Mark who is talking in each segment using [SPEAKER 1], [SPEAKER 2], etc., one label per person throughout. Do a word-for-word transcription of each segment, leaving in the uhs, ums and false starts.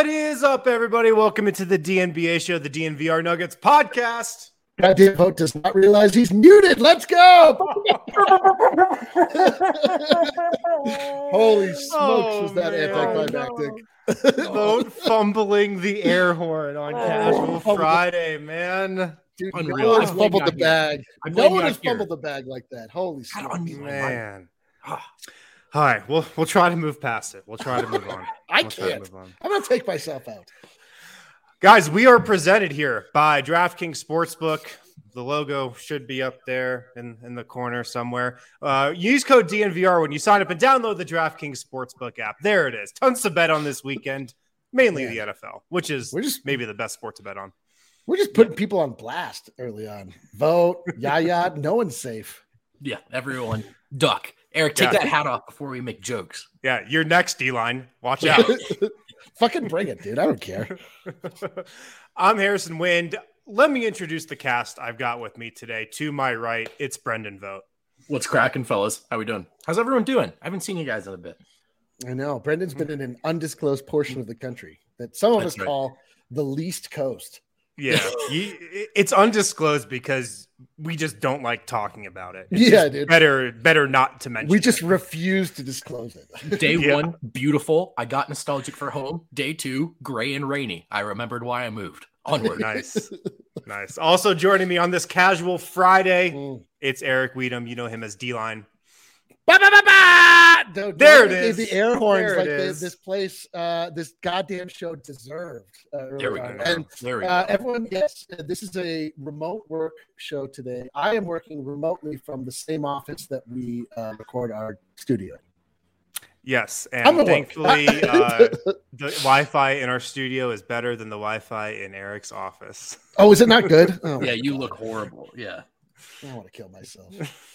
[SPEAKER 1] What is up, everybody? Welcome into the D N B A show, the D N V R Nuggets podcast.
[SPEAKER 2] Goddamn vote does not realize he's muted. Let's go! Holy smokes,
[SPEAKER 1] Oh,
[SPEAKER 2] was that
[SPEAKER 1] man.
[SPEAKER 2] anticlimactic?
[SPEAKER 1] Vote fumbling the air horn on Casual
[SPEAKER 2] Oh.
[SPEAKER 1] Friday, man.
[SPEAKER 2] Dude,
[SPEAKER 3] Unreal.
[SPEAKER 2] no one has
[SPEAKER 3] I blame
[SPEAKER 2] fumbled the
[SPEAKER 3] Yair.
[SPEAKER 2] bag.
[SPEAKER 3] I
[SPEAKER 2] No
[SPEAKER 3] blame
[SPEAKER 2] one has
[SPEAKER 3] Yair.
[SPEAKER 2] fumbled the bag like that. Holy
[SPEAKER 3] God,
[SPEAKER 2] smokes.
[SPEAKER 3] unbelievable.
[SPEAKER 1] Man. All right, we'll we'll try to move past it. We'll try to move on.
[SPEAKER 2] I
[SPEAKER 1] We'll try to
[SPEAKER 2] can't.
[SPEAKER 1] move on.
[SPEAKER 2] I'm going to take myself out.
[SPEAKER 1] Guys, we are presented here by DraftKings Sportsbook. The logo should be up there in, in the corner somewhere. Uh, use code D N V R when you sign up and download the DraftKings Sportsbook app. There it is. Tons to bet on this weekend, mainly
[SPEAKER 2] Yeah.
[SPEAKER 1] the N F L, which is
[SPEAKER 2] We're just
[SPEAKER 1] maybe the best sport to bet on.
[SPEAKER 2] we're just putting people on blast early on. Vote, yaya, no one's safe.
[SPEAKER 3] Yeah, everyone duck. Eric, take
[SPEAKER 1] Yeah.
[SPEAKER 3] that hat off before we make jokes.
[SPEAKER 1] Yeah, you're next, D-line. Watch out.
[SPEAKER 2] Fucking bring it, dude. I don't care.
[SPEAKER 1] I'm Harrison Wind. Let me introduce the cast I've got with me today. To my right, it's Brendan Vogt.
[SPEAKER 3] What's cracking, fellas? How we doing? How's everyone doing? I haven't seen you guys in a bit.
[SPEAKER 2] I know. Brendan's been in an undisclosed portion of the country that some of
[SPEAKER 3] That's
[SPEAKER 2] us
[SPEAKER 3] right.
[SPEAKER 2] call the least coast.
[SPEAKER 1] Yeah, you, it's undisclosed because we just don't like talking about it. It's
[SPEAKER 2] Yeah,
[SPEAKER 1] just
[SPEAKER 2] dude.
[SPEAKER 1] Better, better not to mention.
[SPEAKER 2] We just
[SPEAKER 1] it.
[SPEAKER 2] refuse to disclose it.
[SPEAKER 3] Day
[SPEAKER 1] Yeah.
[SPEAKER 3] one, beautiful. I got nostalgic for home. Day two, gray and rainy. I remembered why I moved. Onward.
[SPEAKER 1] nice, nice. Also joining me on this Casual Friday,
[SPEAKER 2] Mm.
[SPEAKER 1] it's Eric Weedham. You know him as D-line.
[SPEAKER 2] Ba, ba, ba, ba! Don't-
[SPEAKER 1] There
[SPEAKER 2] don't
[SPEAKER 1] it
[SPEAKER 2] give
[SPEAKER 1] is.
[SPEAKER 2] The air horns
[SPEAKER 1] There it
[SPEAKER 2] like the,
[SPEAKER 1] is.
[SPEAKER 2] this place, uh, this goddamn show deserved. Uh, early
[SPEAKER 3] There we
[SPEAKER 2] on.
[SPEAKER 3] go.
[SPEAKER 2] And
[SPEAKER 3] There we go.
[SPEAKER 2] uh, everyone, yes, uh, this is a remote work show today. I am working remotely from the same office that we uh, record our studio.
[SPEAKER 1] Yes,
[SPEAKER 2] I'm
[SPEAKER 1] and
[SPEAKER 2] at work.
[SPEAKER 1] thankfully, uh, the Wi-Fi in our studio is better than the Wi-Fi in Eric's office.
[SPEAKER 2] Oh, is it not good? Oh,
[SPEAKER 3] yeah,
[SPEAKER 2] my
[SPEAKER 3] you
[SPEAKER 2] God.
[SPEAKER 3] look horrible. Yeah.
[SPEAKER 2] I want to kill myself.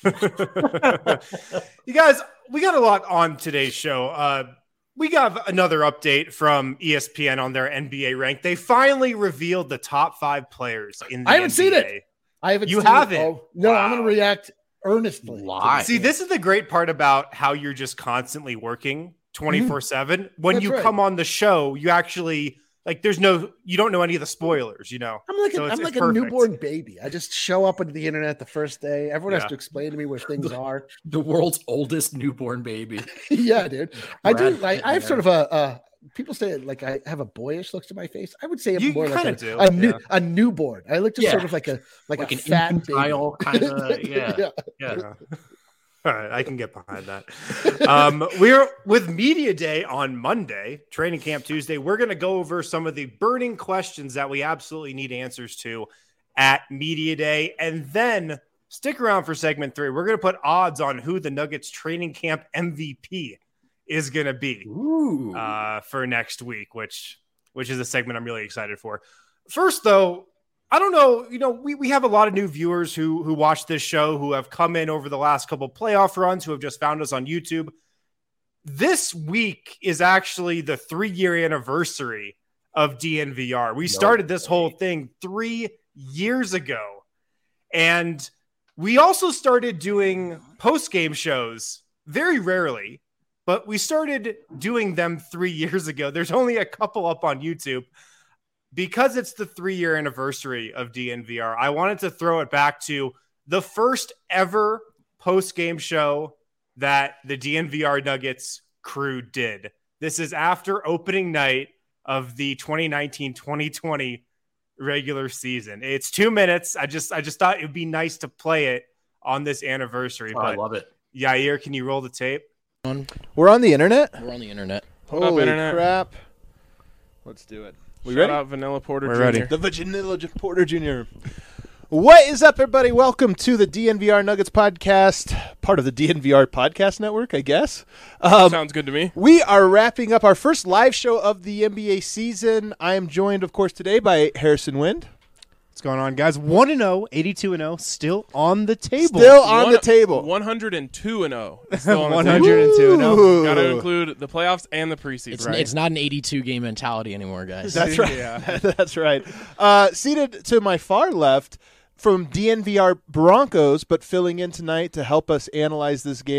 [SPEAKER 1] You guys, we got a lot on today's show. Uh, we got another update from E S P N on their N B A rank. They finally revealed the top five players in the
[SPEAKER 2] I haven't
[SPEAKER 1] N B A.
[SPEAKER 2] seen it. I haven't.
[SPEAKER 1] You
[SPEAKER 2] seen
[SPEAKER 1] haven't?
[SPEAKER 2] It. Oh, no, I'm going
[SPEAKER 1] Wow.
[SPEAKER 2] to react earnestly.
[SPEAKER 3] Lie.
[SPEAKER 1] See, this is the great part about how you're just constantly working twenty-four seven. When
[SPEAKER 2] That's
[SPEAKER 1] you
[SPEAKER 2] right.
[SPEAKER 1] come on the show, you actually like there's no you don't know any of the spoilers, you know.
[SPEAKER 2] I'm like,
[SPEAKER 1] So
[SPEAKER 2] a,
[SPEAKER 1] it's-
[SPEAKER 2] I'm
[SPEAKER 1] it's
[SPEAKER 2] like a
[SPEAKER 1] perfect.
[SPEAKER 2] newborn baby. I just show up onto the internet the first day. Everyone
[SPEAKER 1] Yeah.
[SPEAKER 2] has to explain to me where things are.
[SPEAKER 3] The world's oldest newborn baby.
[SPEAKER 2] Yeah, dude. I do.
[SPEAKER 3] Brad
[SPEAKER 2] Like,
[SPEAKER 3] Pitt,
[SPEAKER 2] I have
[SPEAKER 3] man.
[SPEAKER 2] sort of a. a people say like I have a boyish look to my face. I would say I'm
[SPEAKER 1] You-
[SPEAKER 2] more
[SPEAKER 1] you
[SPEAKER 2] like a,
[SPEAKER 1] kinda do,
[SPEAKER 2] a new
[SPEAKER 1] yeah.
[SPEAKER 2] a newborn. I look just
[SPEAKER 3] Yeah.
[SPEAKER 2] sort of like a like,
[SPEAKER 3] Like
[SPEAKER 2] a
[SPEAKER 3] an
[SPEAKER 2] fat
[SPEAKER 3] infantile
[SPEAKER 2] baby.
[SPEAKER 3] kinda- yeah.
[SPEAKER 2] yeah.
[SPEAKER 3] Yeah.
[SPEAKER 1] Yeah. All right, I can get behind that. Um, we're with Media Day on Monday, Training Camp Tuesday. We're going to go over some of the burning questions that we absolutely need answers to at Media Day. And then stick around for segment three. We're going to put odds on who the Nuggets training camp M V P is going to be
[SPEAKER 3] Ooh.
[SPEAKER 1] uh, for next week, which which is a segment I'm really excited for. First, though, I don't know. You know, we, we have a lot of new viewers who who watch this show who have come in over the last couple playoff runs, who have just found us on YouTube. This week is actually the three-year anniversary of D N V R. We started this whole thing three years ago. And we also started doing post-game shows very rarely, but we started doing them three years ago. There's only a couple up on YouTube. Because it's the three-year anniversary of D N V R, I wanted to throw it back to the first ever post-game show that the D N V R Nuggets crew did. This is after opening night of the twenty nineteen twenty twenty regular season. It's two minutes. I just I just thought it would be nice to play it on this anniversary.
[SPEAKER 3] Oh, I
[SPEAKER 1] but
[SPEAKER 3] love it.
[SPEAKER 1] Yair, can you roll the tape?
[SPEAKER 4] We're on the internet?
[SPEAKER 3] We're on the internet.
[SPEAKER 5] Hold up,
[SPEAKER 4] Holy
[SPEAKER 5] internet.
[SPEAKER 4] crap. Let's do it. We
[SPEAKER 5] Shout
[SPEAKER 4] ready?
[SPEAKER 5] out Vanilla Porter
[SPEAKER 1] We're
[SPEAKER 5] Junior
[SPEAKER 1] ready.
[SPEAKER 4] The Vanilla Porter Junior What is up, everybody? Welcome to the D N V R Nuggets podcast, part of the D N V R podcast network, I guess. Um,
[SPEAKER 5] Sounds good to me.
[SPEAKER 4] we are wrapping up our first live show of the N B A season. I am joined, of course, today by Harrison Wind.
[SPEAKER 6] What's going on, guys? one and oh, eighty-two and oh, still on the table.
[SPEAKER 4] Still on
[SPEAKER 5] One-
[SPEAKER 4] the table.
[SPEAKER 5] one hundred two and oh. It's still on the
[SPEAKER 6] one
[SPEAKER 5] table.
[SPEAKER 6] hundred two and oh.
[SPEAKER 4] Ooh.
[SPEAKER 5] Got to include the playoffs and the preseason.
[SPEAKER 7] It's,
[SPEAKER 5] right?
[SPEAKER 7] it's not an eighty-two game mentality anymore, guys.
[SPEAKER 4] That's right.
[SPEAKER 5] Yeah.
[SPEAKER 4] That's right. Uh, seated to my far left from D N V R Broncos, but filling in tonight to help us analyze this game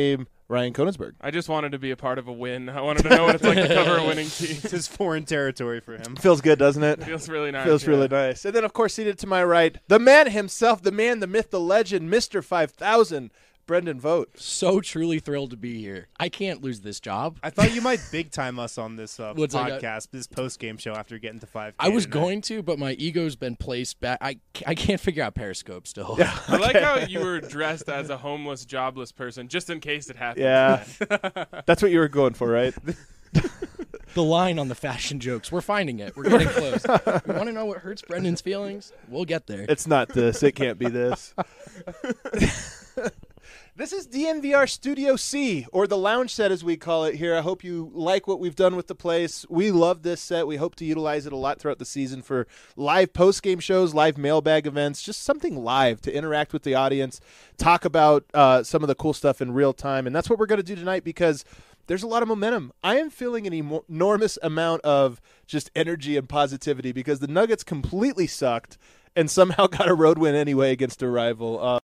[SPEAKER 4] Ryan Koenigsberg.
[SPEAKER 5] I just wanted to be a part of a win. I wanted to know what it's like to cover a winning team.
[SPEAKER 6] It's his foreign territory for him.
[SPEAKER 4] Feels good, doesn't it?
[SPEAKER 5] Feels really nice.
[SPEAKER 4] Feels
[SPEAKER 5] yeah.
[SPEAKER 4] really nice. And then, of course, seated to my right, the man himself, the man, the myth, the legend, Mister five thousand, Brendan Vogt.
[SPEAKER 7] So truly thrilled to be here. I can't lose this job.
[SPEAKER 6] I thought you might big time us on this uh,
[SPEAKER 7] What's like
[SPEAKER 6] podcast, this post game show after getting to five K.
[SPEAKER 7] I was
[SPEAKER 6] tonight.
[SPEAKER 7] going to, but my ego's been placed back. I, I can't figure out Periscope still.
[SPEAKER 4] Yeah.
[SPEAKER 5] I like how you were dressed as a homeless, jobless person, just in case it happened.
[SPEAKER 4] Yeah. That's what you were going for, right?
[SPEAKER 7] The line on the fashion jokes. We're finding it. We're getting close. You want to know what hurts Brendan's feelings? We'll get there.
[SPEAKER 4] It's not this. It can't be this. This is D N V R Studio C, or the lounge set as we call it here. I hope you like what we've done with the place. We love this set. We hope to utilize it a lot throughout the season for live post-game shows, live mailbag events, just something live to interact with the audience, talk about uh, some of the cool stuff in real time. And that's what we're going to do tonight because there's a lot of momentum. I am feeling an emo- enormous amount of just energy and positivity because the Nuggets completely sucked and somehow got a road win anyway against a rival. Uh,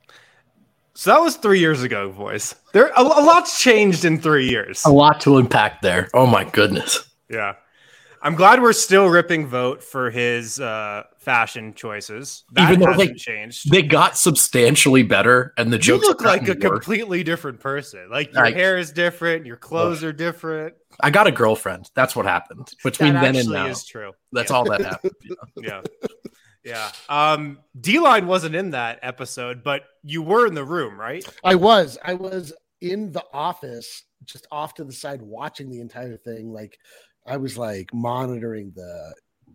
[SPEAKER 1] So that was three years ago, boys. There a, a lot's changed in three years.
[SPEAKER 3] A lot to unpack there. Oh my goodness.
[SPEAKER 1] Yeah. I'm glad we're still ripping Vogt for his uh, fashion choices. That
[SPEAKER 3] Even though
[SPEAKER 1] hasn't
[SPEAKER 3] they-
[SPEAKER 1] changed.
[SPEAKER 3] They got substantially better, and the
[SPEAKER 1] You
[SPEAKER 3] jokes
[SPEAKER 1] look
[SPEAKER 3] have
[SPEAKER 1] like a
[SPEAKER 3] gotten worse.
[SPEAKER 1] completely different person. Like your
[SPEAKER 3] Like-
[SPEAKER 1] hair is different, your clothes are different.
[SPEAKER 3] I got a girlfriend. That's what happened between
[SPEAKER 1] That
[SPEAKER 3] then and
[SPEAKER 1] actually
[SPEAKER 3] now.
[SPEAKER 1] is true.
[SPEAKER 3] That's
[SPEAKER 1] Yeah.
[SPEAKER 3] all that happened.
[SPEAKER 1] Yeah. Yeah. Um, D-Line wasn't in that episode, but you were in the room, right?
[SPEAKER 2] I was. I was in the office, just off to the side, watching the entire thing. Like, I was like monitoring the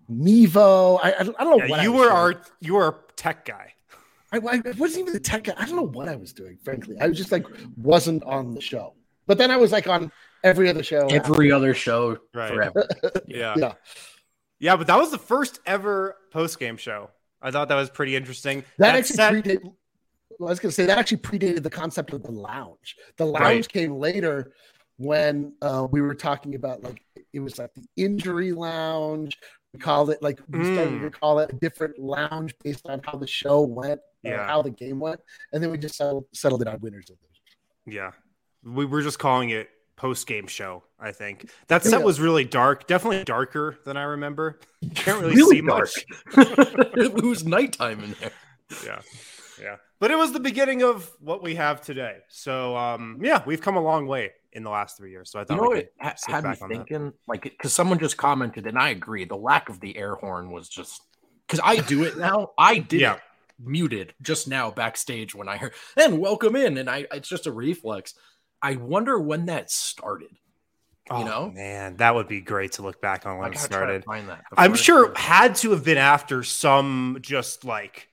[SPEAKER 2] Mevo. I, I, don't, I don't know
[SPEAKER 1] Yeah,
[SPEAKER 2] what I
[SPEAKER 1] you
[SPEAKER 2] was
[SPEAKER 1] were
[SPEAKER 2] doing.
[SPEAKER 1] our you were a tech guy.
[SPEAKER 2] I, I wasn't even the tech guy. I don't know what I was doing, frankly. I was just like wasn't on the show. But then I was like on every other show.
[SPEAKER 3] Every other show
[SPEAKER 1] Right.
[SPEAKER 3] forever.
[SPEAKER 1] Yeah.
[SPEAKER 2] Yeah.
[SPEAKER 1] Yeah, but that was the first ever post-game show. I thought that was pretty interesting.
[SPEAKER 2] That,
[SPEAKER 1] That
[SPEAKER 2] actually
[SPEAKER 1] set-
[SPEAKER 2] predated. Well, I was going to say that actually predated the concept of the lounge. The lounge
[SPEAKER 1] Right.
[SPEAKER 2] came later when uh, we were talking about like it was like the injury lounge. We called it like we started
[SPEAKER 1] Mm.
[SPEAKER 2] to call it a different lounge based on how the show went, or
[SPEAKER 1] Yeah.
[SPEAKER 2] how the game went, and then we just settled, settled it on winners and losers.
[SPEAKER 1] Yeah. We were just calling it post-game show, I think. That set
[SPEAKER 2] Yeah.
[SPEAKER 1] was really dark, definitely darker than I remember. You can't really,
[SPEAKER 3] Really
[SPEAKER 1] see
[SPEAKER 3] dark.
[SPEAKER 1] much.
[SPEAKER 3] It was nighttime in there.
[SPEAKER 1] Yeah. Yeah. But it was the beginning of what we have today. So um yeah, we've come a long way in the last three years. So I thought
[SPEAKER 3] You know
[SPEAKER 1] we
[SPEAKER 3] what
[SPEAKER 1] could
[SPEAKER 3] it ha-
[SPEAKER 1] sit
[SPEAKER 3] had me
[SPEAKER 1] back on that.
[SPEAKER 3] thinking? Like, because someone just commented, and I agree, the lack of the air horn was just because I do it now. I did
[SPEAKER 1] Yeah.
[SPEAKER 3] it muted just now backstage when I heard and welcome in, and I it's just a reflex. I wonder when that started.
[SPEAKER 1] Oh,
[SPEAKER 3] you know?
[SPEAKER 1] man, that would be great to look back on
[SPEAKER 3] I
[SPEAKER 1] when it
[SPEAKER 3] gotta try to
[SPEAKER 1] started.
[SPEAKER 3] find that
[SPEAKER 1] I'm
[SPEAKER 3] before it
[SPEAKER 1] sure it
[SPEAKER 3] started.
[SPEAKER 1] had to have been after some just like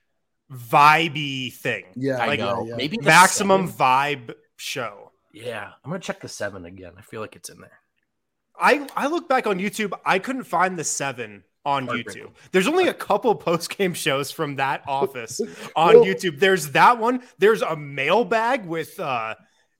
[SPEAKER 1] vibey thing.
[SPEAKER 2] Yeah,
[SPEAKER 3] I
[SPEAKER 1] like
[SPEAKER 3] know.
[SPEAKER 2] yeah.
[SPEAKER 3] Maybe the
[SPEAKER 1] Maximum
[SPEAKER 3] seven?
[SPEAKER 1] vibe show.
[SPEAKER 3] Yeah, I'm gonna check the seven again. I feel like it's in there.
[SPEAKER 1] I, I look back on YouTube, I couldn't find the seven on
[SPEAKER 3] Heartbreaking.
[SPEAKER 1] YouTube. There's only a couple post-game shows from that office on
[SPEAKER 2] Well-
[SPEAKER 1] YouTube. There's that one. There's a mailbag with uh,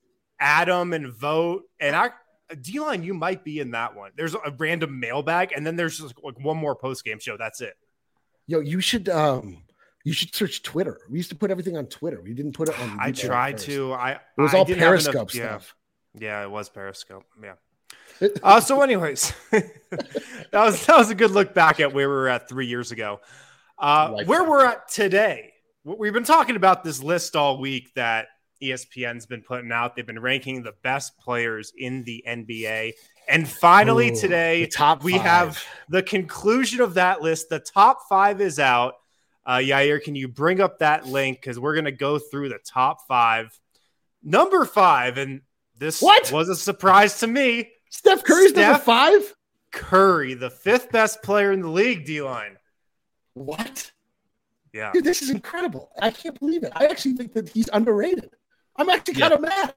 [SPEAKER 1] Adam and Vogt. And I D-Line, you might be in that one. There's a random mailbag, and then there's just like one more post-game show. That's it.
[SPEAKER 2] Yo, you should um, you should search Twitter. We used to put everything on Twitter. We didn't put it on.
[SPEAKER 1] I
[SPEAKER 2] YouTube at
[SPEAKER 1] tried
[SPEAKER 2] first.
[SPEAKER 1] to. I
[SPEAKER 2] It was
[SPEAKER 1] I
[SPEAKER 2] all
[SPEAKER 1] didn't have enough-
[SPEAKER 2] Periscope
[SPEAKER 1] yeah.
[SPEAKER 2] stuff.
[SPEAKER 1] Yeah, it was Periscope. Yeah. Uh, so, anyways, that was that was a good look back at where we were at three years ago. Uh,
[SPEAKER 3] Like
[SPEAKER 1] where
[SPEAKER 3] that.
[SPEAKER 1] we're at today, we've been talking about this list all week that E S P N's been putting out. They've been ranking the best players in the N B A, and finally
[SPEAKER 2] Ooh,
[SPEAKER 1] today
[SPEAKER 2] the top
[SPEAKER 1] we
[SPEAKER 2] five.
[SPEAKER 1] have the conclusion of that list. The top five is out. Uh, Yair, can you bring up that link because we're gonna go through the top five. Number five, and this
[SPEAKER 2] What?
[SPEAKER 1] was a surprise to me.
[SPEAKER 2] Steph Curry's number
[SPEAKER 1] Steph-
[SPEAKER 2] five.
[SPEAKER 1] Curry, the fifth best player in the league, D-Line.
[SPEAKER 2] What?
[SPEAKER 1] Yeah.
[SPEAKER 2] Dude, this is incredible. I can't believe it. I actually think that he's underrated. I'm actually kind of mad.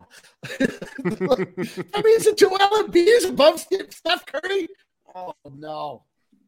[SPEAKER 2] That means that Joel Embiid is above Steph Curry. Oh no!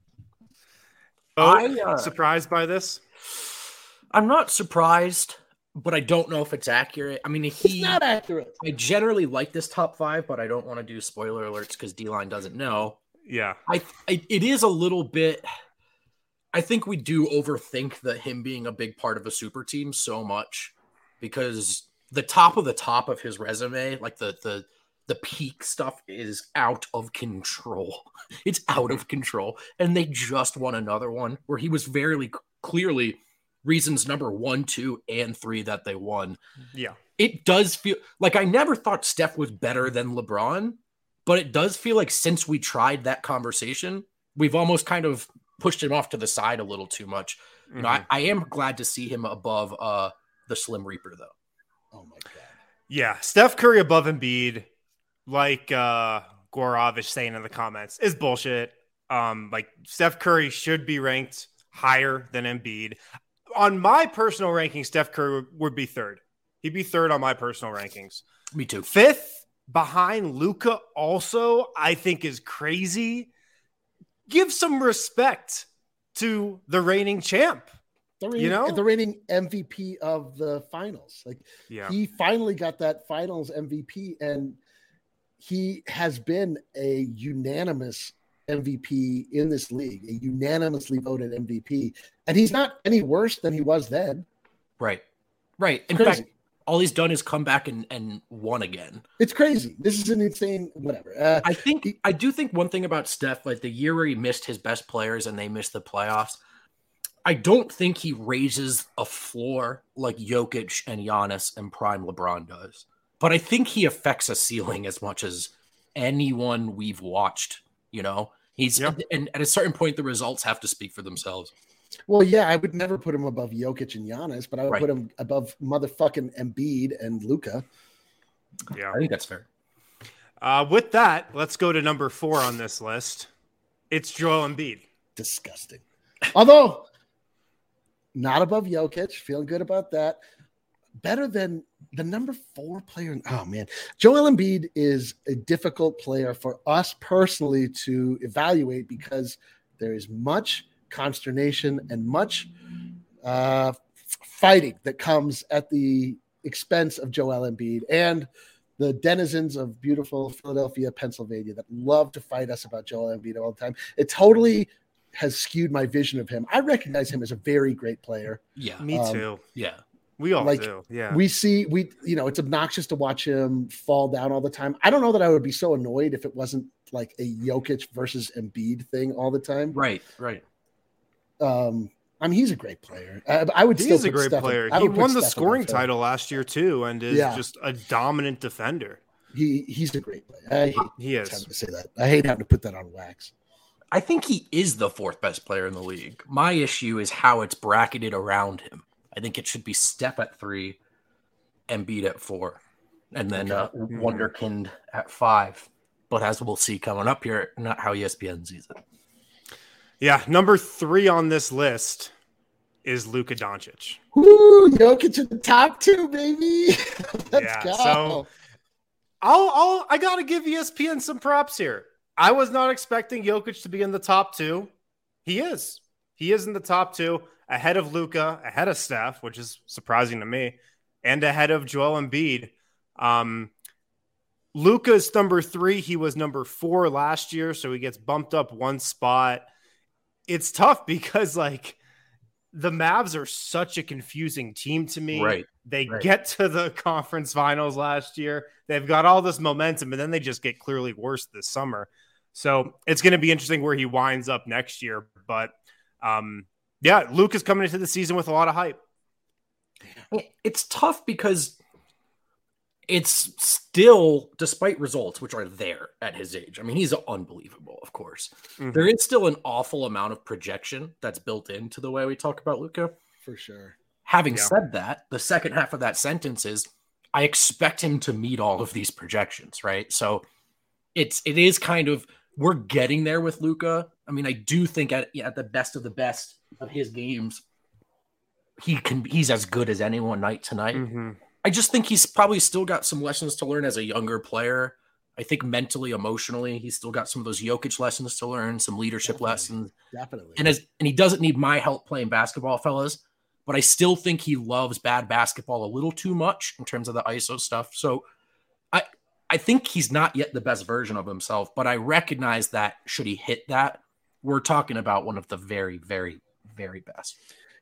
[SPEAKER 1] Oh,
[SPEAKER 3] I, uh,
[SPEAKER 1] surprised by this?
[SPEAKER 3] I'm not surprised, but I don't know if it's accurate. I mean,
[SPEAKER 2] It's
[SPEAKER 3] he.
[SPEAKER 2] not accurate.
[SPEAKER 3] I generally like this top five, but I don't want to do spoiler alerts because D-Line doesn't know.
[SPEAKER 1] Yeah.
[SPEAKER 3] I, I it is a little bit. I think we do overthink the him being a big part of a super team so much because the top of the top of his resume, like the the the peak stuff is out of control. It's out of control. And they just won another one where he was very clearly reasons number one, two, and three that they won.
[SPEAKER 1] Yeah.
[SPEAKER 3] It does feel like I never thought Steph was better than LeBron, but it does feel like since we tried that conversation, we've almost kind of pushed him off to the side a little too much. Mm-hmm. You know, I, I am glad to see him above uh, the Slim Reaper, though.
[SPEAKER 2] Oh, my God.
[SPEAKER 1] Yeah. Steph Curry above Embiid, like uh, Gorov is saying in the comments, is bullshit. Um, like Steph Curry should be ranked higher than Embiid. On my personal ranking, Steph Curry would be third. He'd be third on my personal rankings.
[SPEAKER 3] Me too.
[SPEAKER 1] Fifth behind Luka also, I think is crazy. Give some respect to the reigning champ.
[SPEAKER 2] The reigning,
[SPEAKER 1] you know,
[SPEAKER 2] the reigning M V P of the finals. Like
[SPEAKER 1] yeah.
[SPEAKER 2] he finally got that finals M V P, and he has been a unanimous M V P in this league, a unanimously voted M V P. And he's not any worse than he was then.
[SPEAKER 3] Right. Right. In
[SPEAKER 2] Crazy.
[SPEAKER 3] fact, all he's done is come back and, and won again.
[SPEAKER 2] It's crazy. This is an insane whatever. Uh,
[SPEAKER 3] I think I do think one thing about Steph, like the year where he missed his best players and they missed the playoffs, I don't think he raises a floor like Jokic and Giannis and prime LeBron does. But I think he affects a ceiling as much as anyone we've watched, you know? He's yep. and at a certain point the results have to speak for themselves.
[SPEAKER 2] Well, yeah, I would never put him above Jokic and Giannis, but I would
[SPEAKER 3] right.
[SPEAKER 2] put him above motherfucking Embiid and Luka.
[SPEAKER 1] Yeah,
[SPEAKER 3] I think that's fair.
[SPEAKER 1] Uh, with that, let's go to number four on this list. It's Joel Embiid.
[SPEAKER 2] Disgusting. Although not above Jokic, feeling good about that. Better than the number four player. Oh, man. Joel Embiid is a difficult player for us personally to evaluate because there is much consternation and much uh, fighting that comes at the expense of Joel Embiid and the denizens of beautiful Philadelphia, Pennsylvania that love to fight us about Joel Embiid all the time. It totally has skewed my vision of him. I recognize him as a very great player.
[SPEAKER 3] Yeah,
[SPEAKER 1] me
[SPEAKER 2] um,
[SPEAKER 1] too.
[SPEAKER 3] Yeah.
[SPEAKER 1] We all
[SPEAKER 2] like,
[SPEAKER 1] do. Yeah.
[SPEAKER 2] We see, we, you know, it's obnoxious to watch him fall down all the time. I don't know that I would be so annoyed if it wasn't like a Jokic versus Embiid thing all the time.
[SPEAKER 3] Right, right.
[SPEAKER 2] Um, I mean, he's a great player. I, I would
[SPEAKER 1] he
[SPEAKER 2] still
[SPEAKER 1] is a great
[SPEAKER 2] Steph,
[SPEAKER 1] player.
[SPEAKER 2] I
[SPEAKER 1] He
[SPEAKER 2] would
[SPEAKER 1] won the
[SPEAKER 2] Steph
[SPEAKER 1] scoring title last year too, and is
[SPEAKER 2] Yeah.
[SPEAKER 1] just a dominant defender.
[SPEAKER 2] He he's a great player. I hate
[SPEAKER 1] He is.
[SPEAKER 2] having to say that. I hate having to put that on wax.
[SPEAKER 3] I think he is the fourth best player in the league. My issue is how it's bracketed around him. I think it should be Steph at three, Embiid at four, and then uh, Wonderkind at five. But as we'll see coming up here, not how E S P N sees it.
[SPEAKER 1] Yeah, number three on this list is Luka Doncic.
[SPEAKER 2] Woo, Jokic in the top two, baby. Let's
[SPEAKER 1] Yeah,
[SPEAKER 2] go.
[SPEAKER 1] so I'll, I'll, I got to give E S P N some props here. I was not expecting Jokic to be in the top two. He is. He is in the top two, ahead of Luka, ahead of Steph, which is surprising to me, and ahead of Joel Embiid. Um, Luka's number three. He was number four last year, so he gets bumped up one spot. It's tough because, like, the Mavs are such a confusing team to me.
[SPEAKER 3] Right.
[SPEAKER 1] They
[SPEAKER 3] right.
[SPEAKER 1] get to the conference finals last year. They've got all this momentum, and then they just get clearly worse this summer. So it's going to be interesting where he winds up next year. But, um, yeah, Luke is coming into the season with a lot of hype.
[SPEAKER 3] It's tough because it's still, despite results, which are there at his age. I mean, he's unbelievable, of course. Mm-hmm. There is still an awful amount of projection that's built into the way we talk about Luka.
[SPEAKER 2] For sure.
[SPEAKER 3] Having
[SPEAKER 1] yeah.
[SPEAKER 3] said that, the second half of that sentence is, I expect him to meet all of these projections, right? So it's it is kind of, we're getting there with Luka. I mean, I do think at, at the best of the best of his games, he can he's as good as anyone night to night.
[SPEAKER 1] Mm-hmm.
[SPEAKER 3] I just think he's probably still got some lessons to learn as a younger player. I think mentally, emotionally, he's still got some of those Jokic lessons to learn, some leadership
[SPEAKER 2] Definitely.
[SPEAKER 3] lessons.
[SPEAKER 2] Definitely.
[SPEAKER 3] And as and he doesn't need my help playing basketball, fellas, but I still think he loves bad basketball a little too much in terms of the I S O stuff. So I I think he's not yet the best version of himself, but I recognize that should he hit that, we're talking about one of the very, very, very best.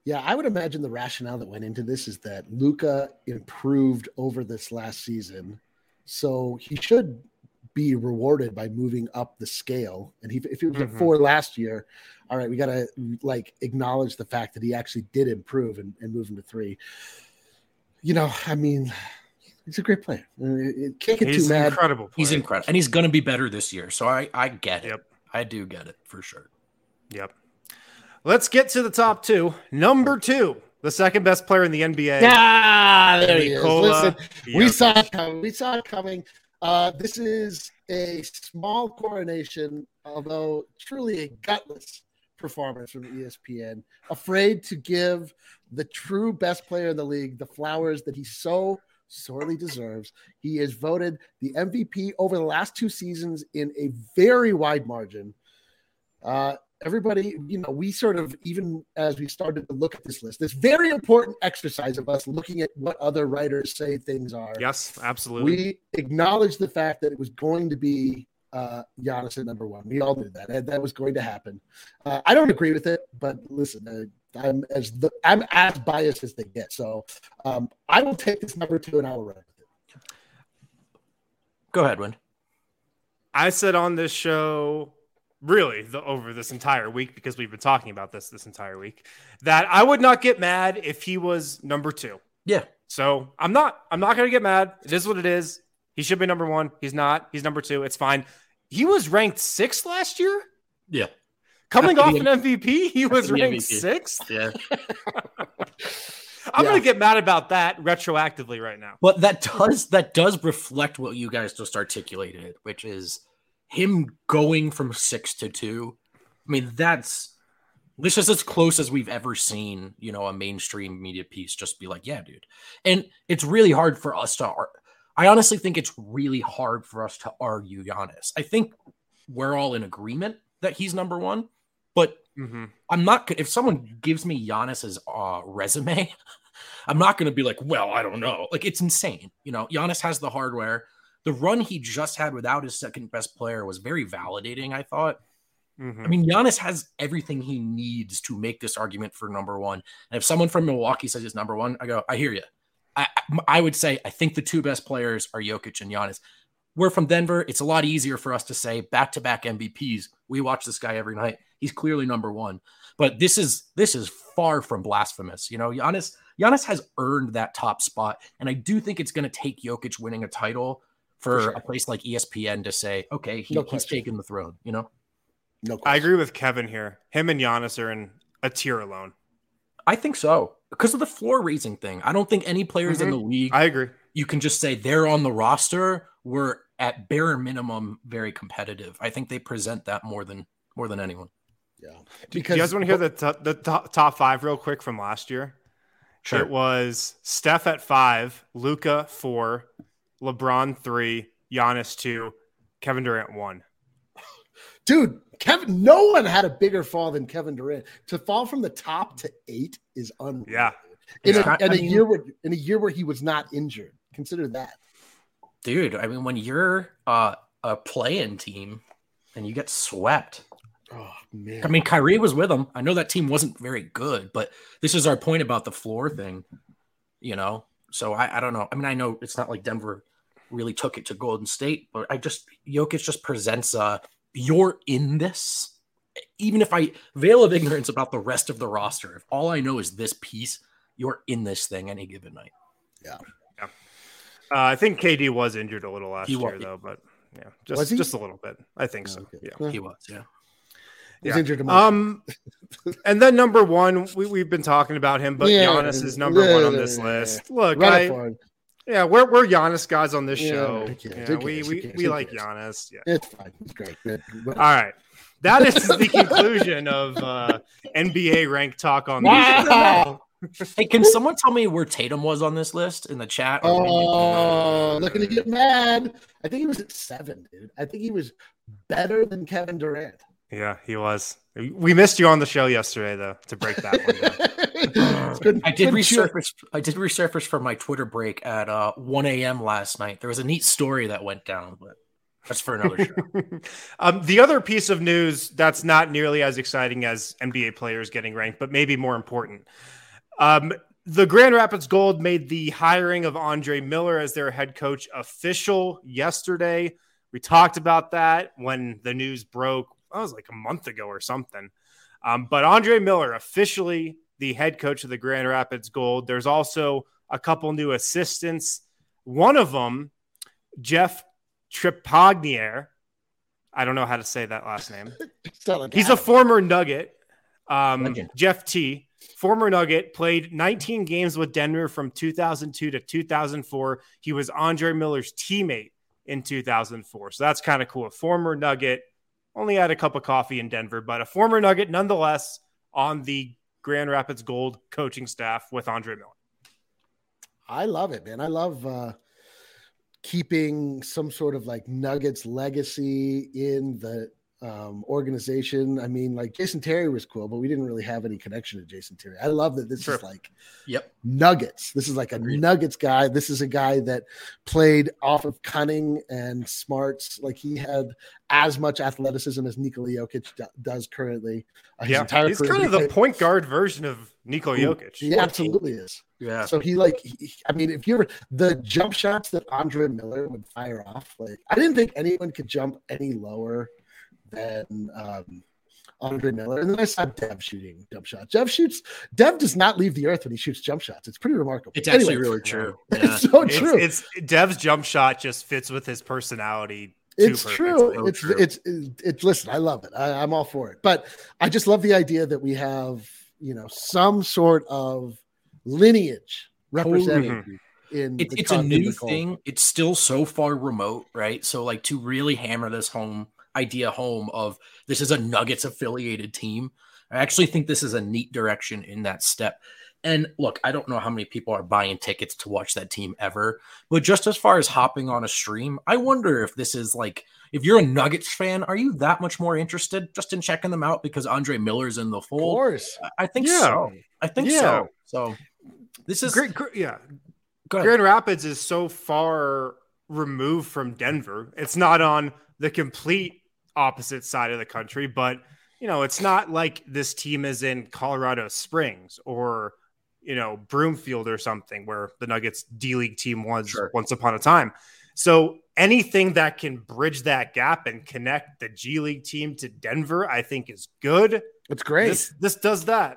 [SPEAKER 2] Yeah, I would imagine the rationale that went into this is that Luka improved over this last season, so he should be rewarded by moving up the scale. And he, if he was
[SPEAKER 1] Mhm.
[SPEAKER 2] at four last year, all right, we got to like acknowledge the fact that he actually did improve and, and move him to three. You know, I mean, he's a great player. It can't get
[SPEAKER 1] He's
[SPEAKER 2] too
[SPEAKER 1] an
[SPEAKER 2] mad.
[SPEAKER 1] incredible player.
[SPEAKER 3] He's incredible, and he's going to be better this year. So I, I get it.
[SPEAKER 1] Yep.
[SPEAKER 3] I do get it for sure.
[SPEAKER 1] Yep. Let's get to the top two. Number two, the second best player in the N B A.
[SPEAKER 2] Ah, there he is.
[SPEAKER 1] Nikola
[SPEAKER 2] Listen, we
[SPEAKER 1] Jokic.
[SPEAKER 2] saw it coming. We saw it coming. Uh, this is a small coronation, although truly a gutless performance from E S P N. Afraid to give the true best player in the league the flowers that he so sorely deserves. He is voted the M V P over the last two seasons in a very wide margin. Uh, everybody, you know, we sort of, even as we started to look at this list, this very important exercise of us looking at what other writers say things are.
[SPEAKER 1] Yes, absolutely.
[SPEAKER 2] We acknowledged the fact that it was going to be uh, Giannis at number one. We all knew that. That, that was going to happen. Uh, I don't agree with it, but listen, uh, I'm as the, I'm as biased as they get. So um, I will take this number two and I will run with it.
[SPEAKER 3] Go ahead, Win.
[SPEAKER 1] I said on this show, really the, over this entire week, because we've been talking about this this entire week, that I would not get mad if he was number two.
[SPEAKER 3] Yeah.
[SPEAKER 1] So I'm not. I'm not going to get mad. It is what it is. He should be number one. He's not. He's number two. It's fine. He was ranked sixth last year.
[SPEAKER 3] Yeah.
[SPEAKER 1] Coming
[SPEAKER 3] After
[SPEAKER 1] off
[SPEAKER 3] the-
[SPEAKER 1] an M V P, he was
[SPEAKER 3] the
[SPEAKER 1] ranked
[SPEAKER 3] M V P.
[SPEAKER 1] sixth.
[SPEAKER 3] Yeah.
[SPEAKER 1] I'm
[SPEAKER 2] Yeah.
[SPEAKER 1] going to get mad about that retroactively right now.
[SPEAKER 3] But that does that does reflect what you guys just articulated, which is him going from six to two. I mean, that's this is as close as we've ever seen, you know, a mainstream media piece just be like, yeah, dude. And it's really hard for us to ar- I honestly think it's really hard for us to argue Giannis. I think we're all in agreement that he's number one, but
[SPEAKER 1] Mm-hmm.
[SPEAKER 3] I'm not if someone gives me Giannis's uh, resume, I'm not going to be like, well, I don't know. Like, it's insane. You know, Giannis has the hardware. The run he just had without his second best player was very validating, I thought.
[SPEAKER 1] Mm-hmm.
[SPEAKER 3] I mean, Giannis has everything he needs to make this argument for number one. And if someone from Milwaukee says he's number one, I go, I hear you. I, I would say I think the two best players are Jokic and Giannis. We're from Denver. It's a lot easier for us to say back-to-back M V Ps. We watch this guy every night. He's clearly number one. But this is this is far from blasphemous. You know, Giannis, Giannis has earned that top spot. And I do think it's going to take Jokic winning a title for,
[SPEAKER 2] For sure.
[SPEAKER 3] a place like E S P N to say, okay, he,
[SPEAKER 2] No
[SPEAKER 3] he's
[SPEAKER 2] question.
[SPEAKER 3] taken the throne, you know?
[SPEAKER 2] No
[SPEAKER 1] I
[SPEAKER 2] question.
[SPEAKER 1] agree with Kevin here. Him and Giannis are in a tier alone.
[SPEAKER 3] I think so. Because of the floor raising thing. I don't think any players in
[SPEAKER 1] Mhm.
[SPEAKER 3] the league,
[SPEAKER 1] I agree.
[SPEAKER 3] you can just say they're on the roster, were at bare minimum very competitive. I think they present that more than more than anyone.
[SPEAKER 2] Yeah.
[SPEAKER 1] Do you guys want to hear the t- the top, top five real quick from last year? It was Steph at five, Luka four, LeBron three, Giannis two, Kevin Durant one.
[SPEAKER 2] Dude, Kevin, no one had a bigger fall than Kevin Durant. To fall from the top to eight is unreal.
[SPEAKER 1] Yeah.
[SPEAKER 2] In,
[SPEAKER 3] Yeah.
[SPEAKER 2] a, in
[SPEAKER 3] I
[SPEAKER 2] a
[SPEAKER 3] mean-
[SPEAKER 2] year where in a year where he was not injured. Consider that.
[SPEAKER 3] Dude, I mean, when you're uh, a play-in team and you get swept,
[SPEAKER 2] Oh man.
[SPEAKER 3] I mean, Kyrie was with them. I know that team wasn't very good, but this is our point about the floor thing, you know? So I, I don't know. I mean, I know it's not like Denver really took it to Golden State, but I just, Jokic just presents, uh, you're in this. Even if I veil of ignorance about the rest of the roster, if all I know is this piece, you're in this thing any given night.
[SPEAKER 2] Yeah.
[SPEAKER 1] Uh, I think K D was injured a little last
[SPEAKER 3] He was.
[SPEAKER 1] year, though, but yeah,
[SPEAKER 2] Was
[SPEAKER 1] just
[SPEAKER 2] he?
[SPEAKER 1] just a little bit. I think so.
[SPEAKER 2] Okay.
[SPEAKER 1] Yeah.
[SPEAKER 2] Yeah.
[SPEAKER 3] He was, yeah.
[SPEAKER 2] He's
[SPEAKER 1] Yeah.
[SPEAKER 2] injured emotionally.
[SPEAKER 1] Um, and then number one, we, we've been talking about him, but
[SPEAKER 2] Yeah.
[SPEAKER 1] Giannis is number
[SPEAKER 2] Yeah,
[SPEAKER 1] one on
[SPEAKER 2] yeah,
[SPEAKER 1] this
[SPEAKER 2] yeah,
[SPEAKER 1] list. Look,
[SPEAKER 2] Run
[SPEAKER 1] I,
[SPEAKER 2] it for him.
[SPEAKER 1] yeah, we're we're Giannis guys on this
[SPEAKER 2] Yeah,
[SPEAKER 1] show.
[SPEAKER 2] who cares?
[SPEAKER 1] Yeah,
[SPEAKER 2] Who
[SPEAKER 1] we
[SPEAKER 2] cares? Who
[SPEAKER 1] we,
[SPEAKER 2] cares?
[SPEAKER 1] we
[SPEAKER 2] Who
[SPEAKER 1] like
[SPEAKER 2] cares?
[SPEAKER 1] Giannis. Yeah.
[SPEAKER 2] It's fine. It's great. Yeah.
[SPEAKER 1] All right. That is the conclusion of uh, N B A rank talk on this.
[SPEAKER 2] Wow.
[SPEAKER 3] Hey, can someone tell me where Tatum was on this list in the chat? Or maybe-
[SPEAKER 2] Oh, looking to get mad. I think he was at seven, dude. I think he was better than Kevin Durant.
[SPEAKER 1] Yeah, he was. We missed you on the show yesterday, though, to break that one down.
[SPEAKER 2] Couldn't-
[SPEAKER 3] I did
[SPEAKER 2] couldn't chew-
[SPEAKER 3] resurface. I did resurface from my Twitter break at uh, one a.m. last night. There was a neat story that went down, but That's for another show.
[SPEAKER 1] um, the other piece of news that's not nearly as exciting as N B A players getting ranked, but maybe more important. Um, the Grand Rapids Gold made the hiring of Andre Miller as their head coach official yesterday. We talked about that when the news broke. That was like a month ago or something. Um, but Andre Miller, officially the head coach of the Grand Rapids Gold. There's also a couple new assistants. One of them, Jeff Trepagnier. I don't know how to say that last name. He's a former Nugget. Um, Jeff T, former Nugget, played nineteen games with Denver from two thousand two to two thousand four. He was Andre Miller's teammate in two thousand four. So that's kind of cool. A former Nugget, only had a cup of coffee in Denver, but a former Nugget nonetheless on the Grand Rapids Gold coaching staff with Andre Miller.
[SPEAKER 2] I love it, man. I love uh, keeping some sort of like Nuggets legacy in the um, organization. I mean, like Jason Terry was cool, but we didn't really have any connection to Jason Terry. I love that this
[SPEAKER 1] sure.
[SPEAKER 2] is like
[SPEAKER 3] yep.
[SPEAKER 2] Nuggets. This is like a Agreed. Nuggets guy. This is a guy that played off of cunning and smarts. Like he had as much athleticism as Nikola Jokic do- does currently. Uh,
[SPEAKER 1] yeah, he's kind of the point guard version of Nikola Jokic.
[SPEAKER 2] He absolutely is.
[SPEAKER 3] Yeah.
[SPEAKER 2] So he like, he, I mean, if you were the jump shots that Andre Miller would fire off, like I didn't think anyone could jump any lower than um, Andre Miller. And then I saw Dev shooting jump shots. Dev shoots. Dev does not leave the earth when he shoots jump shots. It's pretty remarkable.
[SPEAKER 3] It's actually
[SPEAKER 2] anyway,
[SPEAKER 3] really true.
[SPEAKER 2] Yeah.
[SPEAKER 3] Yeah.
[SPEAKER 2] It's so true.
[SPEAKER 1] It's, it's Dev's jump shot just fits with his personality.
[SPEAKER 2] It's
[SPEAKER 1] perfectly.
[SPEAKER 2] true.
[SPEAKER 1] So
[SPEAKER 2] it's,
[SPEAKER 1] true.
[SPEAKER 2] it's it's it's listen. I love it. I, I'm all for it. But I just love the idea that we have, you know, some sort of lineage represented
[SPEAKER 3] Totally.
[SPEAKER 2] in.
[SPEAKER 3] It,
[SPEAKER 2] the
[SPEAKER 3] it's a
[SPEAKER 2] con- in
[SPEAKER 3] new
[SPEAKER 2] the call.
[SPEAKER 3] thing. It's still so far remote, right? So, like, to really hammer this home idea home of this is a Nuggets affiliated team, I actually think this is a neat direction in that step. And look, I don't know how many people are buying tickets to watch that team ever, but just as far as hopping on a stream, I wonder if this is like, if you're a Nuggets fan, are you that much more interested just in checking them out because Andre Miller's in the fold?
[SPEAKER 2] Of course.
[SPEAKER 3] I think
[SPEAKER 1] Yeah.
[SPEAKER 3] so. I think
[SPEAKER 1] Yeah.
[SPEAKER 3] so. So this is
[SPEAKER 1] great. Gr- yeah.
[SPEAKER 3] go ahead.
[SPEAKER 1] Grand Rapids is so far removed from Denver. It's not on the complete opposite side of the country, but you know, it's not like this team is in Colorado Springs or, you know, Broomfield or something where the Nuggets D-League team was
[SPEAKER 3] Sure.
[SPEAKER 1] once upon a time. So anything that can bridge that gap and connect the G League team to Denver, I think is good.
[SPEAKER 2] It's great.
[SPEAKER 1] This, this does that.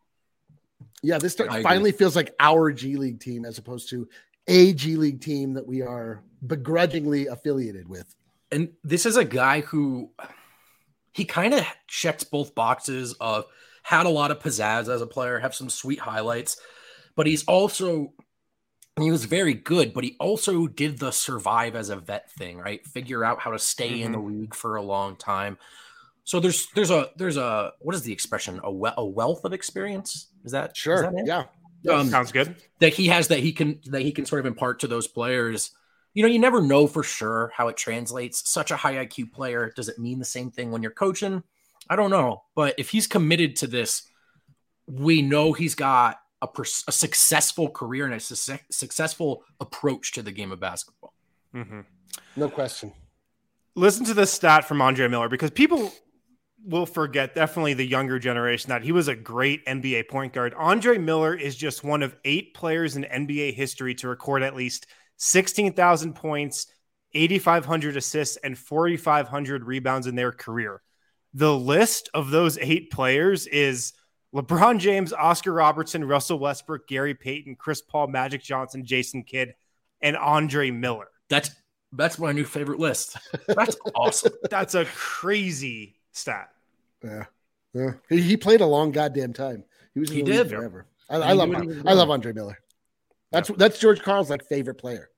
[SPEAKER 2] Yeah, this start,
[SPEAKER 3] I agree.
[SPEAKER 2] finally feels like our G League team as opposed to a G League team that we are begrudgingly affiliated with.
[SPEAKER 3] And this is a guy who he kind of checks both boxes of had a lot of pizzazz as a player, have some sweet highlights, but he's also, he was very good, but he also did the survive as a vet thing, right? Figure out how to stay mm-hmm. in the league for a long time. So there's, there's a, there's a, what is the expression? A, we- a wealth of experience. Is that
[SPEAKER 2] sure?
[SPEAKER 3] Is that it?
[SPEAKER 2] Yeah.
[SPEAKER 1] Um, Sounds good.
[SPEAKER 3] That he has, that he can, that he can sort of impart to those players. You know, you never know for sure how it translates. Such a high I Q player. Does it mean the same thing when you're coaching? I don't know. But if he's committed to this, we know he's got a, pers- a successful career and a su- successful approach to the game of basketball.
[SPEAKER 1] Mm-hmm.
[SPEAKER 2] No question.
[SPEAKER 1] Listen to this stat from Andre Miller, because people will forget, definitely the younger generation, that he was a great N B A point guard. Andre Miller is just one of eight players in N B A history to record at least sixteen thousand points, eighty-five hundred assists, and forty-five hundred rebounds in their career. The list of those eight players is LeBron James, Oscar Robertson, Russell Westbrook, Gary Payton, Chris Paul, Magic Johnson, Jason Kidd, and Andre Miller.
[SPEAKER 3] That's that's my new favorite list. That's awesome.
[SPEAKER 1] That's a crazy stat.
[SPEAKER 2] Yeah, yeah. He, he played a long goddamn time. He was in
[SPEAKER 3] he
[SPEAKER 2] the
[SPEAKER 3] did
[SPEAKER 2] league forever. I,
[SPEAKER 3] he
[SPEAKER 2] I love I love Andre Miller. That's yeah. that's George Karl's like favorite player.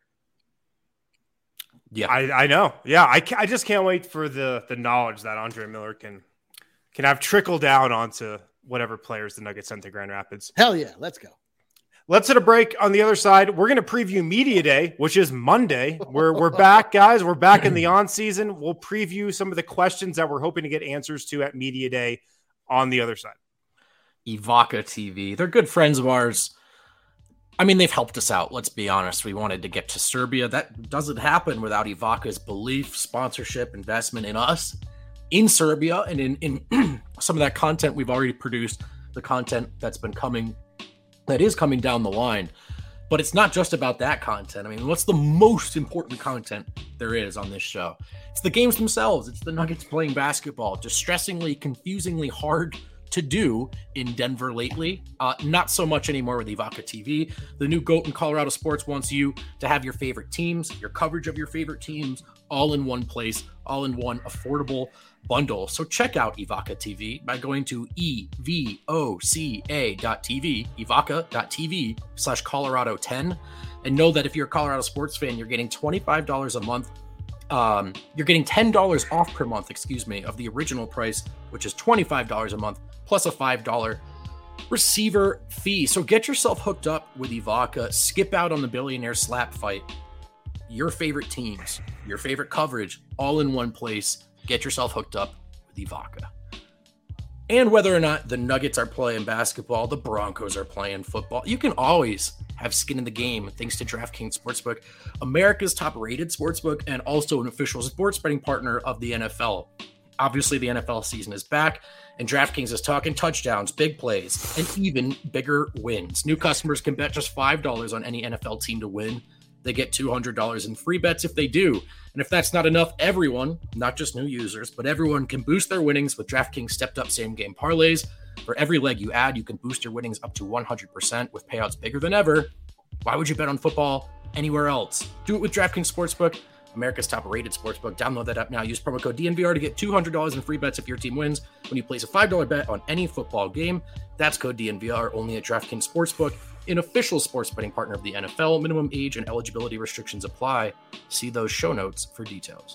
[SPEAKER 3] Yeah,
[SPEAKER 1] I, I know. Yeah, I, I just can't wait for the the knowledge that Andre Miller can can have trickle down onto whatever players the Nuggets sent to Grand Rapids.
[SPEAKER 2] Hell yeah, let's go.
[SPEAKER 1] Let's hit a break. On the other side, we're going to preview Media Day, which is Monday. We're we're back, guys. We're back in the on season. We'll preview some of the questions that we're hoping to get answers to at Media Day on the other side.
[SPEAKER 3] Evoca T V. They're good friends of ours. I mean, they've helped us out. Let's be honest. We wanted to get to Serbia. That doesn't happen without Ivaca's belief, sponsorship, investment in us, in Serbia, and in, in some of that content we've already produced, the content that's been coming, that is coming down the line. But it's not just about that content. I mean, what's the most important content there is on this show? It's the games themselves. It's the Nuggets playing basketball. Distressingly, confusingly hard to do in Denver lately. Uh, not so much anymore with Ivaca T V. The new GOAT in Colorado sports wants you to have your favorite teams, your coverage of your favorite teams, all in one place, all in one affordable bundle. So check out Ivaca T V by going to E V O C A dot T V, Ivaca dot T V slash Colorado ten. And know that if you're a Colorado sports fan, you're getting twenty-five dollars a month. Um, you're getting ten dollars off per month, excuse me, of the original price, which is twenty-five dollars a month, plus a five dollars receiver fee. So get yourself hooked up with Ivaca. Skip out on the billionaire slap fight. Your favorite teams, your favorite coverage, all in one place. Get yourself hooked up with Ivaca. And whether or not the Nuggets are playing basketball, the Broncos are playing football, you can always have skin in the game thanks to DraftKings Sportsbook, America's top-rated sportsbook and also an official sports betting partner of the N F L. Obviously, the N F L season is back, and DraftKings is talking touchdowns, big plays, and even bigger wins. New customers can bet just five dollars on any N F L team to win. They get two hundred dollars in free bets if they do. And if that's not enough, everyone, not just new users, but everyone can boost their winnings with DraftKings stepped-up same-game parlays. For every leg you add, you can boost your winnings up to one hundred percent with payouts bigger than ever. Why would you bet on football anywhere else? Do it with DraftKings Sportsbook, America's top-rated sportsbook. Download that app now. Use promo code D N V R to get two hundred dollars in free bets if your team wins when you place a five dollars bet on any football game. That's code D N V R only at DraftKings Sportsbook, an official sports betting partner of the N F L. Minimum age and eligibility restrictions apply. See those show notes for details.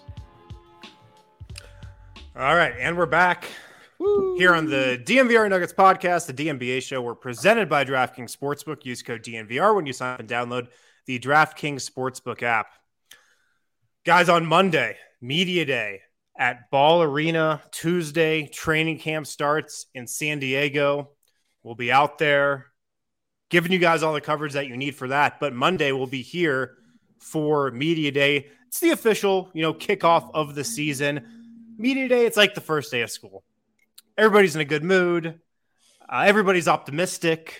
[SPEAKER 1] All right, and we're back. Woo. Here on the D N V R Nuggets podcast, the D N B A show. We're presented by DraftKings Sportsbook. Use code D N V R when you sign up and download the DraftKings Sportsbook app. Guys, on Monday, Media Day at Ball Arena. Tuesday, training camp starts in San Diego. We'll be out there giving you guys all the coverage that you need for that. But Monday, we'll be here for Media Day. It's the official, you know, kickoff of the season. Media Day, it's like the first day of school. Everybody's in a good mood. Uh, everybody's optimistic.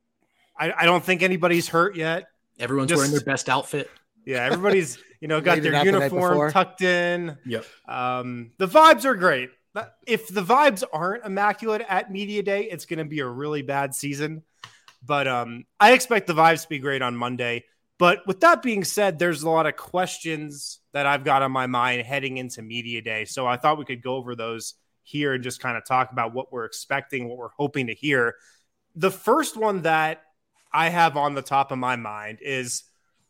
[SPEAKER 1] I, I don't think anybody's hurt yet.
[SPEAKER 3] Everyone's
[SPEAKER 1] Just,
[SPEAKER 3] wearing their best outfit.
[SPEAKER 1] Yeah, everybody's, you know, got their uniform
[SPEAKER 2] the
[SPEAKER 1] tucked in.
[SPEAKER 3] Yep.
[SPEAKER 1] Um, the vibes are great. If the vibes aren't immaculate at Media Day, it's going to be a really bad season. But um, I expect the vibes to be great on Monday. But with that being said, there's a lot of questions that I've got on my mind heading into Media Day. So I thought we could go over those here and just kind of talk about what we're expecting, what we're hoping to hear. The first one that I have on the top of my mind is,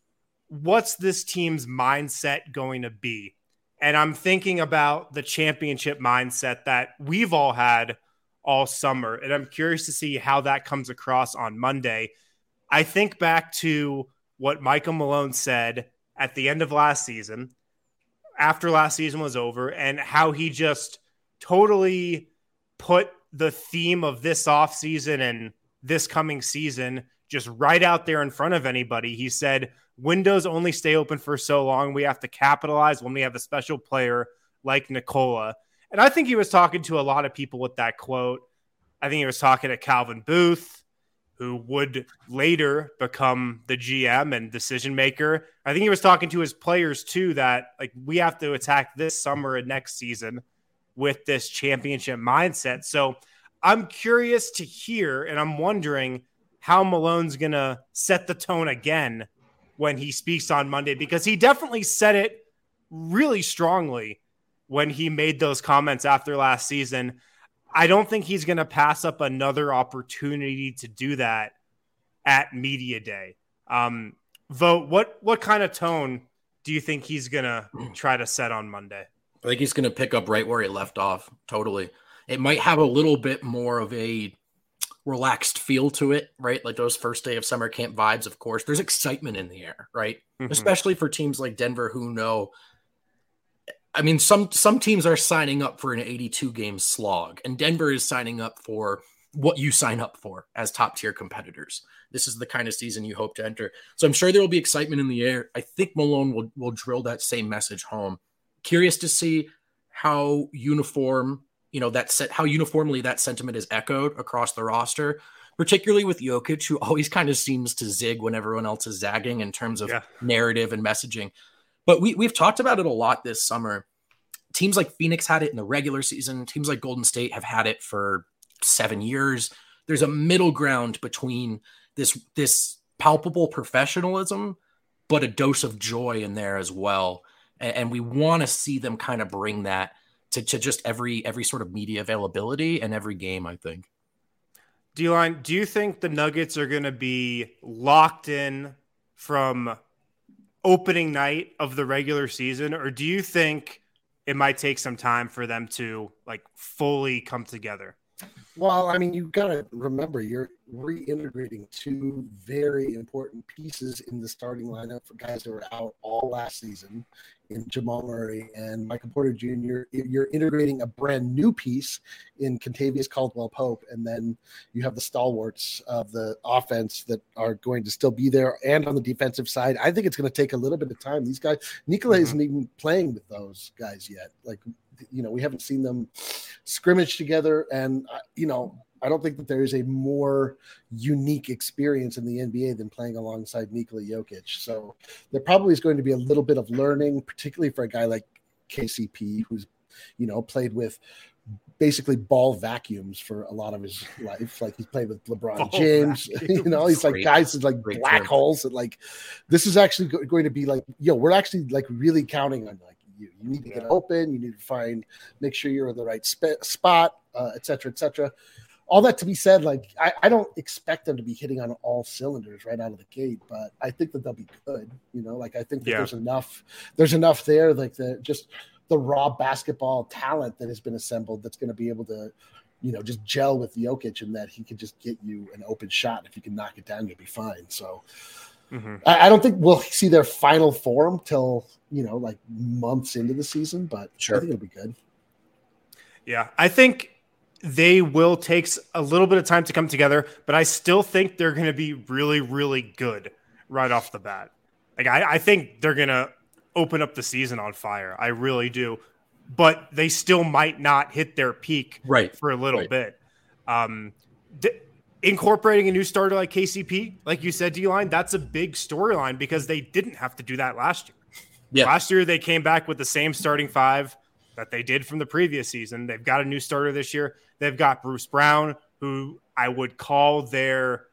[SPEAKER 1] what's this team's mindset going to be? And I'm thinking about the championship mindset that we've all had all summer. And I'm curious to see how that comes across on Monday. I think back to what Michael Malone said at the end of last season, after last season was over, and how he just totally put the theme of this offseason and this coming season just right out there in front of anybody. He said, windows only stay open for so long. We have to capitalize when we have a special player like Nikola. And I think he was talking to a lot of people with that quote. I think he was talking to Calvin Booth, who would later become the G M and decision maker. I think he was talking to his players too, that like we have to attack this summer and next season with this championship mindset. So I'm curious to hear, and I'm wondering how Malone's going to set the tone again when he speaks on Monday, because he definitely said it really strongly when he made those comments after last season. I don't think he's going to pass up another opportunity to do that at Media Day. Um, Vote, what what kind of tone do you think he's going to try to set on Monday?
[SPEAKER 3] I think he's going to pick up right where he left off. Totally. It might have a little bit more of a relaxed feel to it, right? Like those first day of summer camp vibes, of course. There's excitement in the air, right? Mm-hmm. Especially for teams like Denver who know, I mean, some some teams are signing up for an eighty-two game slog, and Denver is signing up for what you sign up for as top tier competitors. This is the kind of season you hope to enter. So I'm sure there will be excitement in the air. I think Malone will, will drill that same message home. Curious to see how uniform, you know, that set, how uniformly that sentiment is echoed across the roster, particularly with Jokic, who always kind of seems to zig when everyone else is zagging in terms of yeah. narrative and messaging. But we, we've talked about it a lot this summer. Teams like Phoenix had it in the regular season. Teams like Golden State have had it for seven years. There's a middle ground between this, this palpable professionalism, but a dose of joy in there as well. And, and we want to see them kind of bring that to, to just every, every sort of media availability and every game, I think.
[SPEAKER 1] D-Line, do you think the Nuggets are going to be locked in from opening night of the regular season, or do you think it might take some time for them to like fully come together?
[SPEAKER 2] Well, I mean, you've got to remember you're reintegrating two very important pieces in the starting lineup for guys that were out all last season in Jamal Murray and Michael Porter Junior You're integrating a brand new piece in Kentavious Caldwell-Pope, and then you have the stalwarts of the offense that are going to still be there. And on the defensive side, I think it's going to take a little bit of time. These guys, Nikola mm-hmm. isn't even playing with those guys yet. Like, you know, we haven't seen them scrimmage together, and uh, you know, I don't think that there is a more unique experience in the N B A than playing alongside Nikola Jokic. So there probably is going to be a little bit of learning, particularly for a guy like K C P, who's, you know, played with basically ball vacuums for a lot of his life. Like he's played with LeBron ball James, vacuums. You know, he's like guys is like Great black term. holes. And like, this is actually go- going to be like, yo, we're actually like really counting on like, You, you need to get open. You need to find, make sure you're in the right sp- spot, uh, et cetera, et cetera. All that to be said, like I, I don't expect them to be hitting on all cylinders right out of the gate, but I think that they'll be good. You know, like I think that yeah. there's enough, there's enough there, like the just the raw basketball talent that has been assembled that's going to be able to, you know, just gel with Jokic, and that he can just get you an open shot. If you can knock it down, you'll be fine. So. Mm-hmm. I, I don't think we'll see their final form till, you know, like months into the season, but sure. I think it'll be good.
[SPEAKER 1] Yeah, I think they will take a little bit of time to come together, but I still think they're going to be really, really good right off the bat. Like I, I think they're going to open up the season on fire. I really do, but they still might not hit their peak
[SPEAKER 3] right.
[SPEAKER 1] for a little
[SPEAKER 3] right.
[SPEAKER 1] bit. Um, th- Incorporating a new starter like K C P, like you said, D-Line, that's a big storyline because they didn't have to do that last year. Yeah. Last year, they came back with the same starting five that they did from the previous season. They've got a new starter this year. They've got Bruce Brown, who I would call their,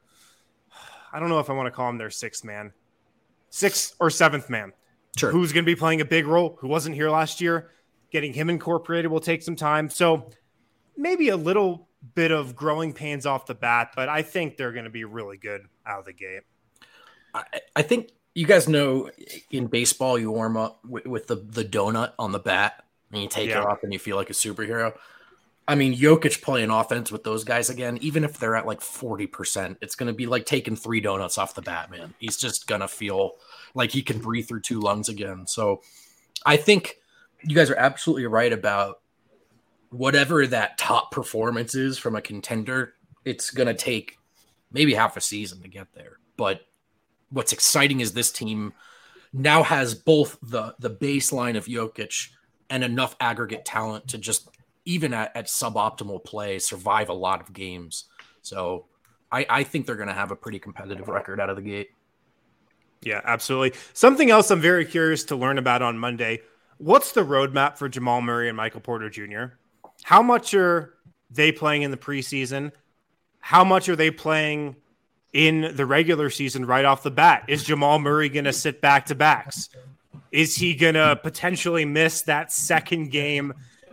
[SPEAKER 1] I don't know if I want to call him their sixth man, sixth or seventh man,
[SPEAKER 3] sure.
[SPEAKER 1] who's going to be playing a big role, who wasn't here last year. Getting him incorporated will take some time. So maybe a little bit of growing pains off the bat, but I think they're going to be really good out of the gate.
[SPEAKER 3] I, I think you guys know in baseball, you warm up with, with the, the donut on the bat and you take yeah. it off and you feel like a superhero. I mean, Jokic playing offense with those guys again, even if they're at like forty percent, it's going to be like taking three donuts off the bat, man. He's just going to feel like he can breathe through two lungs again. So I think you guys are absolutely right about whatever that top performance is from a contender. It's going to take maybe half a season to get there. But what's exciting is this team now has both the, the baseline of Jokic and enough aggregate talent to just, even at, at suboptimal play, survive a lot of games. So I, I think they're going to have a pretty competitive record out of the gate.
[SPEAKER 1] Yeah, absolutely. Something else I'm very curious to learn about on Monday. What's the roadmap for Jamal Murray and Michael Porter Junior? How much are they playing in the preseason? How much are they playing in the regular season right off the bat? Is Jamal Murray going to sit back-to-backs? Is he going to potentially miss that second game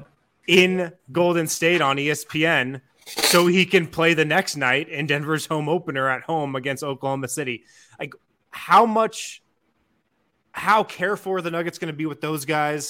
[SPEAKER 1] in Golden State on E S P N so he can play the next night in Denver's home opener at home against Oklahoma City? Like, how much, how careful are the Nuggets going to be with those guys?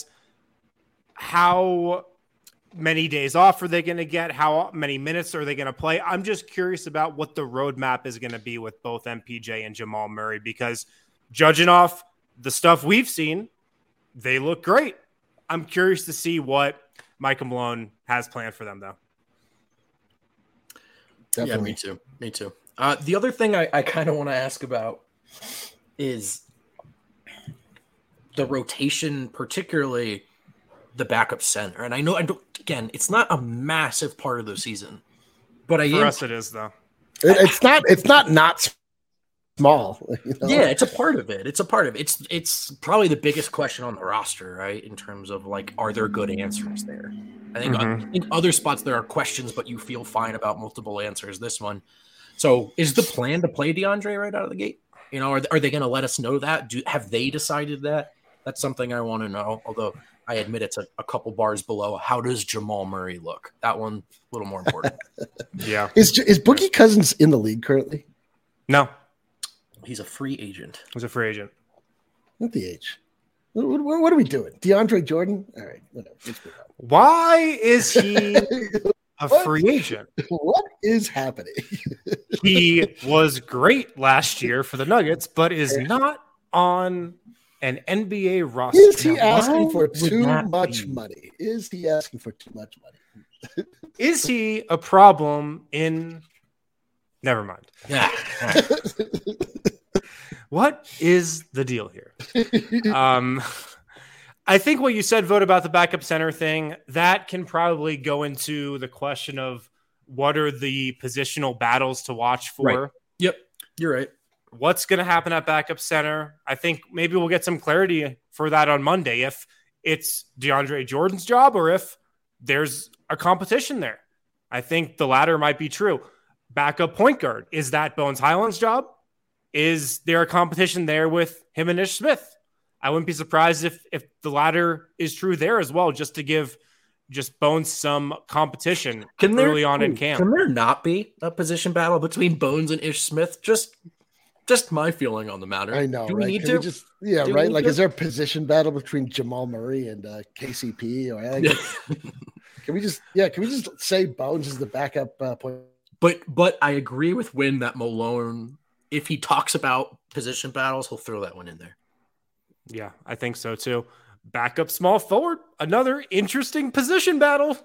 [SPEAKER 1] How many days off are they going to get? How many minutes are they going to play? I'm just curious about what the roadmap is going to be with both M P J and Jamal Murray, because judging off the stuff we've seen, they look great. I'm curious to see what Michael Malone has planned for them, though.
[SPEAKER 2] Definitely.
[SPEAKER 3] Yeah, me too. Me too. Uh, the other thing I, I kind of want to ask about is the rotation, particularly the backup center. And I know, I don't, again, it's not a massive part of the season, but I
[SPEAKER 1] For
[SPEAKER 3] am.
[SPEAKER 1] us, it is though.
[SPEAKER 2] It, it's not. It's not not small. You know?
[SPEAKER 3] Yeah, it's a part of it. It's a part of it. It's it's probably the biggest question on the roster, right? In terms of like, are there good answers there? I think
[SPEAKER 1] Mhm.
[SPEAKER 3] I think other spots there are questions, but you feel fine about multiple answers. This one. So, is the plan to play DeAndre right out of the gate? You know, are, are they going to let us know that? Do have they decided that? That's something I want to know. Although I admit it's a, a couple bars below. How does Jamal Murray look? That one a little more important.
[SPEAKER 1] Yeah.
[SPEAKER 2] Is is Boogie Cousins in the league currently?
[SPEAKER 1] No,
[SPEAKER 3] He's a free agent.
[SPEAKER 1] he's a free agent.
[SPEAKER 2] At the age. What, what, what are we doing? DeAndre Jordan? All right, whatever. Let's move on.
[SPEAKER 1] Why is he a free agent?
[SPEAKER 2] What is happening?
[SPEAKER 1] He was great last year for the Nuggets, but is not on an N B A roster.
[SPEAKER 2] Is he
[SPEAKER 1] Now,
[SPEAKER 2] asking
[SPEAKER 1] why
[SPEAKER 2] for
[SPEAKER 3] would
[SPEAKER 2] too
[SPEAKER 3] that
[SPEAKER 2] much
[SPEAKER 3] be?
[SPEAKER 2] money? Is he asking for too much money?
[SPEAKER 1] Is he a problem in? Never mind.
[SPEAKER 3] Yeah.
[SPEAKER 1] What is the deal here? Um, I think what you said, vote about the backup center thing, that can probably go into the question of what are the positional battles to watch for.
[SPEAKER 3] Right. Yep. You're right.
[SPEAKER 1] What's going to happen at backup center? I think maybe we'll get some clarity for that on Monday if it's DeAndre Jordan's job or if there's a competition there. I think the latter might be true. Backup point guard, is that Bones Highland's job? Is there a competition there with him and Ish Smith? I wouldn't be surprised if if the latter is true there as well, just to give just Bones some competition
[SPEAKER 3] Can there,
[SPEAKER 1] early on in camp.
[SPEAKER 3] Can there not be a position battle between Bones and Ish Smith? Just just my feeling on the matter.
[SPEAKER 2] I know,
[SPEAKER 3] Do we
[SPEAKER 2] right?
[SPEAKER 3] need
[SPEAKER 2] Can
[SPEAKER 3] to?
[SPEAKER 2] we just yeah,
[SPEAKER 3] Do we
[SPEAKER 2] right?
[SPEAKER 3] need
[SPEAKER 2] Like,
[SPEAKER 3] to?
[SPEAKER 2] is there a position battle between Jamal Murray and uh, K C P? Or like, can we just yeah? Can we just say Bones is the backup uh, point?
[SPEAKER 3] But but I agree with Win that Malone, if he talks about position battles, he'll throw that one in there.
[SPEAKER 1] Yeah, I think so too. Backup small forward, another interesting position battle.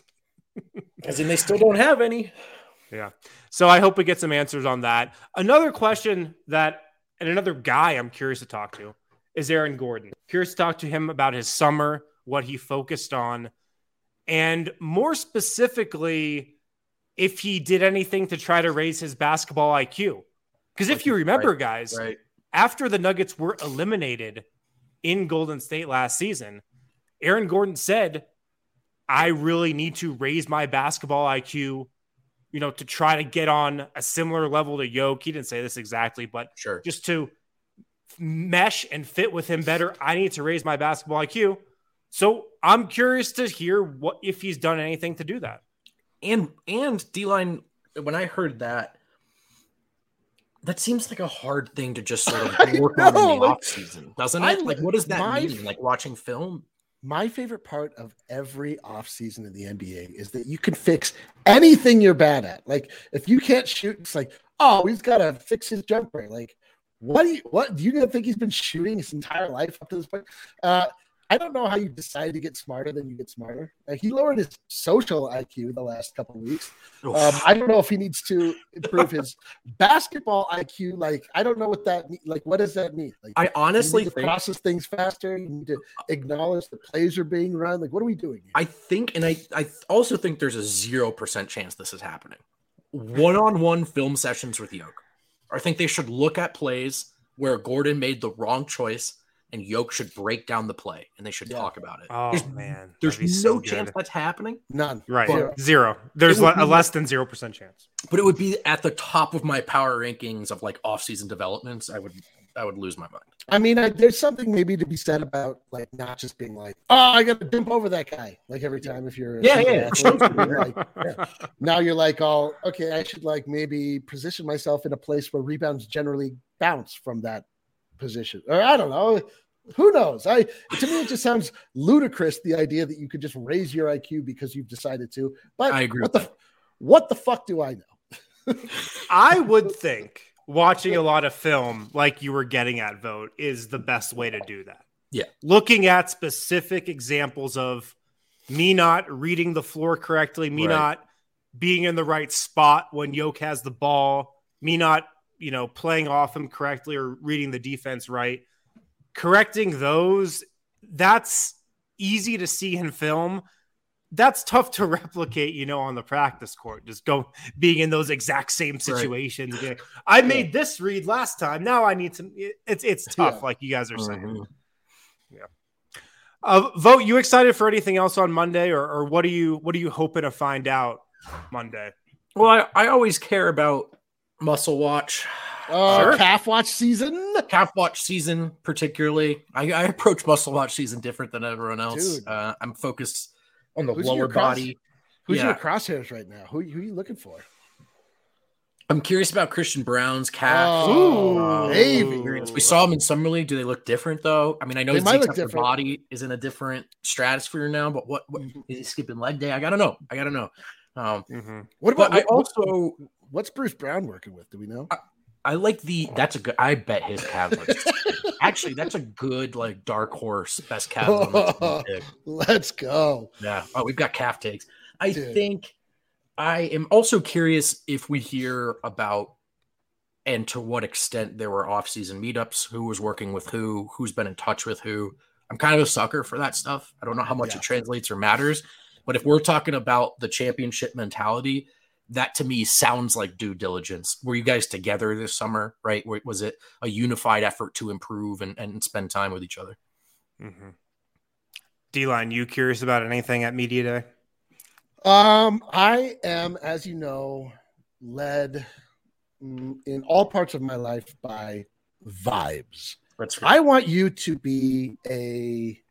[SPEAKER 3] As in, they still don't have any.
[SPEAKER 1] Yeah. So I hope we get some answers on that. Another question that, and another guy I'm curious to talk to is Aaron Gordon. Curious to talk to him about his summer, what he focused on, and more specifically, if he did anything to try to raise his basketball I Q. Because if you remember,
[SPEAKER 3] Right,
[SPEAKER 1] guys,
[SPEAKER 3] Right.
[SPEAKER 1] after the Nuggets were eliminated in Golden State last season, Aaron Gordon said, I really need to raise my basketball I Q, you know, to try to get on a similar level to Yoke. He didn't say this exactly, but
[SPEAKER 3] Sure.
[SPEAKER 1] just to mesh and fit with him better, I need to raise my basketball I Q. So I'm curious to hear what if he's done anything to do that.
[SPEAKER 3] And and D-line, when I heard that, that seems like a hard thing to just sort of work on
[SPEAKER 2] know,
[SPEAKER 3] in the
[SPEAKER 2] like,
[SPEAKER 3] off season, doesn't
[SPEAKER 2] I-
[SPEAKER 3] it? Like, what does that
[SPEAKER 2] my-
[SPEAKER 3] mean? Like watching film?
[SPEAKER 2] My favorite part of every offseason in the N B A is that you can fix anything you're bad at. Like, if you can't shoot, it's like, oh, he's got to fix his jumper. Like, what do you what do you think he's been shooting his entire life up to this point? Uh, I don't know how you decide to get smarter than you get smarter. Uh, he lowered his social I Q the last couple of weeks. Um, I don't know if he needs to improve his basketball I Q. Like, I don't know what that mean- like. What does that mean? Like,
[SPEAKER 3] I
[SPEAKER 2] you
[SPEAKER 3] honestly
[SPEAKER 2] need to
[SPEAKER 3] think
[SPEAKER 2] process things faster. You need to acknowledge the plays are being run. Like, what are we doing here?
[SPEAKER 3] I think, and I, I also think there's a zero percent chance this is happening. One-on-one film sessions with Yoke. I think they should look at plays where Gordon made the wrong choice and Yoke should break down the play and they should
[SPEAKER 2] Yeah.
[SPEAKER 3] talk about it.
[SPEAKER 1] Oh,
[SPEAKER 3] there's
[SPEAKER 1] man.
[SPEAKER 3] there's
[SPEAKER 1] that'd be
[SPEAKER 3] no
[SPEAKER 1] so good.
[SPEAKER 3] chance that's happening,
[SPEAKER 2] None.
[SPEAKER 1] Right.
[SPEAKER 2] Zero.
[SPEAKER 1] Zero. There's
[SPEAKER 3] It would
[SPEAKER 1] le-
[SPEAKER 3] be
[SPEAKER 1] a less than zero percent chance.
[SPEAKER 3] but it would be at the top of my power rankings of like off-season developments. I would I would lose my mind.
[SPEAKER 2] I mean, I, there's something maybe to be said about like not just being like, oh, I got to jump over that guy. Like every time if you're a
[SPEAKER 3] Yeah,
[SPEAKER 2] super
[SPEAKER 3] yeah,
[SPEAKER 2] athlete,
[SPEAKER 3] sure.
[SPEAKER 2] you're like, yeah. Now you're like, oh, okay, I should like maybe position myself in a place where rebounds generally bounce from that position, or I don't know. Who knows? I to me it just sounds ludicrous the idea that you could just raise your I Q because you've decided to. But
[SPEAKER 3] I agree
[SPEAKER 2] What
[SPEAKER 3] with
[SPEAKER 2] the what the fuck do I know?
[SPEAKER 1] I would think watching a lot of film, like you were getting at, Vote, is the best way to do that.
[SPEAKER 3] Yeah.
[SPEAKER 1] Looking at specific examples of me not reading the floor correctly, me
[SPEAKER 3] Right.
[SPEAKER 1] not being in the right spot when Yoke has the ball, me not, you know, playing off him correctly or reading the defense right, correcting those, that's easy to see in film. That's tough to replicate, you know, on the practice court, just go being in those exact same situations. Right. I made yeah. this read last time. Now I need to, it's, it's tough. Yeah. Like you guys are saying. Mm-hmm. Yeah. Uh, Vogt, you excited for anything else on Monday, or, or what are you, what are you hoping to find out Monday?
[SPEAKER 3] Well, I, I always care about muscle watch.
[SPEAKER 2] Uh, sure. Calf watch season,
[SPEAKER 3] calf watch season, particularly. I, I approach muscle watch season different than everyone else. Uh, I'm focused on the
[SPEAKER 2] who's
[SPEAKER 3] lower
[SPEAKER 2] cross,
[SPEAKER 3] body.
[SPEAKER 2] Who's
[SPEAKER 3] yeah.
[SPEAKER 2] your crosshairs right now? Who, who are you looking for?
[SPEAKER 3] I'm curious about Christian Brown's calf.
[SPEAKER 2] Oh,
[SPEAKER 3] uh, we saw him in Summer League. Do they look different though? I mean, I know his body is in a different stratosphere now, but what, what is he skipping leg day? I gotta know. I gotta know. Um,
[SPEAKER 2] mm-hmm. What about?
[SPEAKER 3] I also
[SPEAKER 2] what's Bruce Brown working with? Do we know?
[SPEAKER 3] I, I like the. That's a good. I bet his calves. Actually, that's a good like dark horse best calves.
[SPEAKER 2] Oh, let's go.
[SPEAKER 3] Yeah. Oh, we've got calf takes. I Dude. think. I am also curious if we hear about and to what extent there were off-season meetups, who was working with who, who's been in touch with who. I'm kind of a sucker for that stuff. I don't know how much yeah. it translates or matters, but if we're talking about the championship mentality, that to me sounds like due diligence. Were you guys together this summer, right? Was it a unified effort to improve and, and spend time with each other?
[SPEAKER 1] Mm-hmm. D-Line, you curious about anything at Media Day?
[SPEAKER 2] Um, I am, as you know, led in all parts of my life by vibes.
[SPEAKER 3] That's
[SPEAKER 2] right. I want you to be a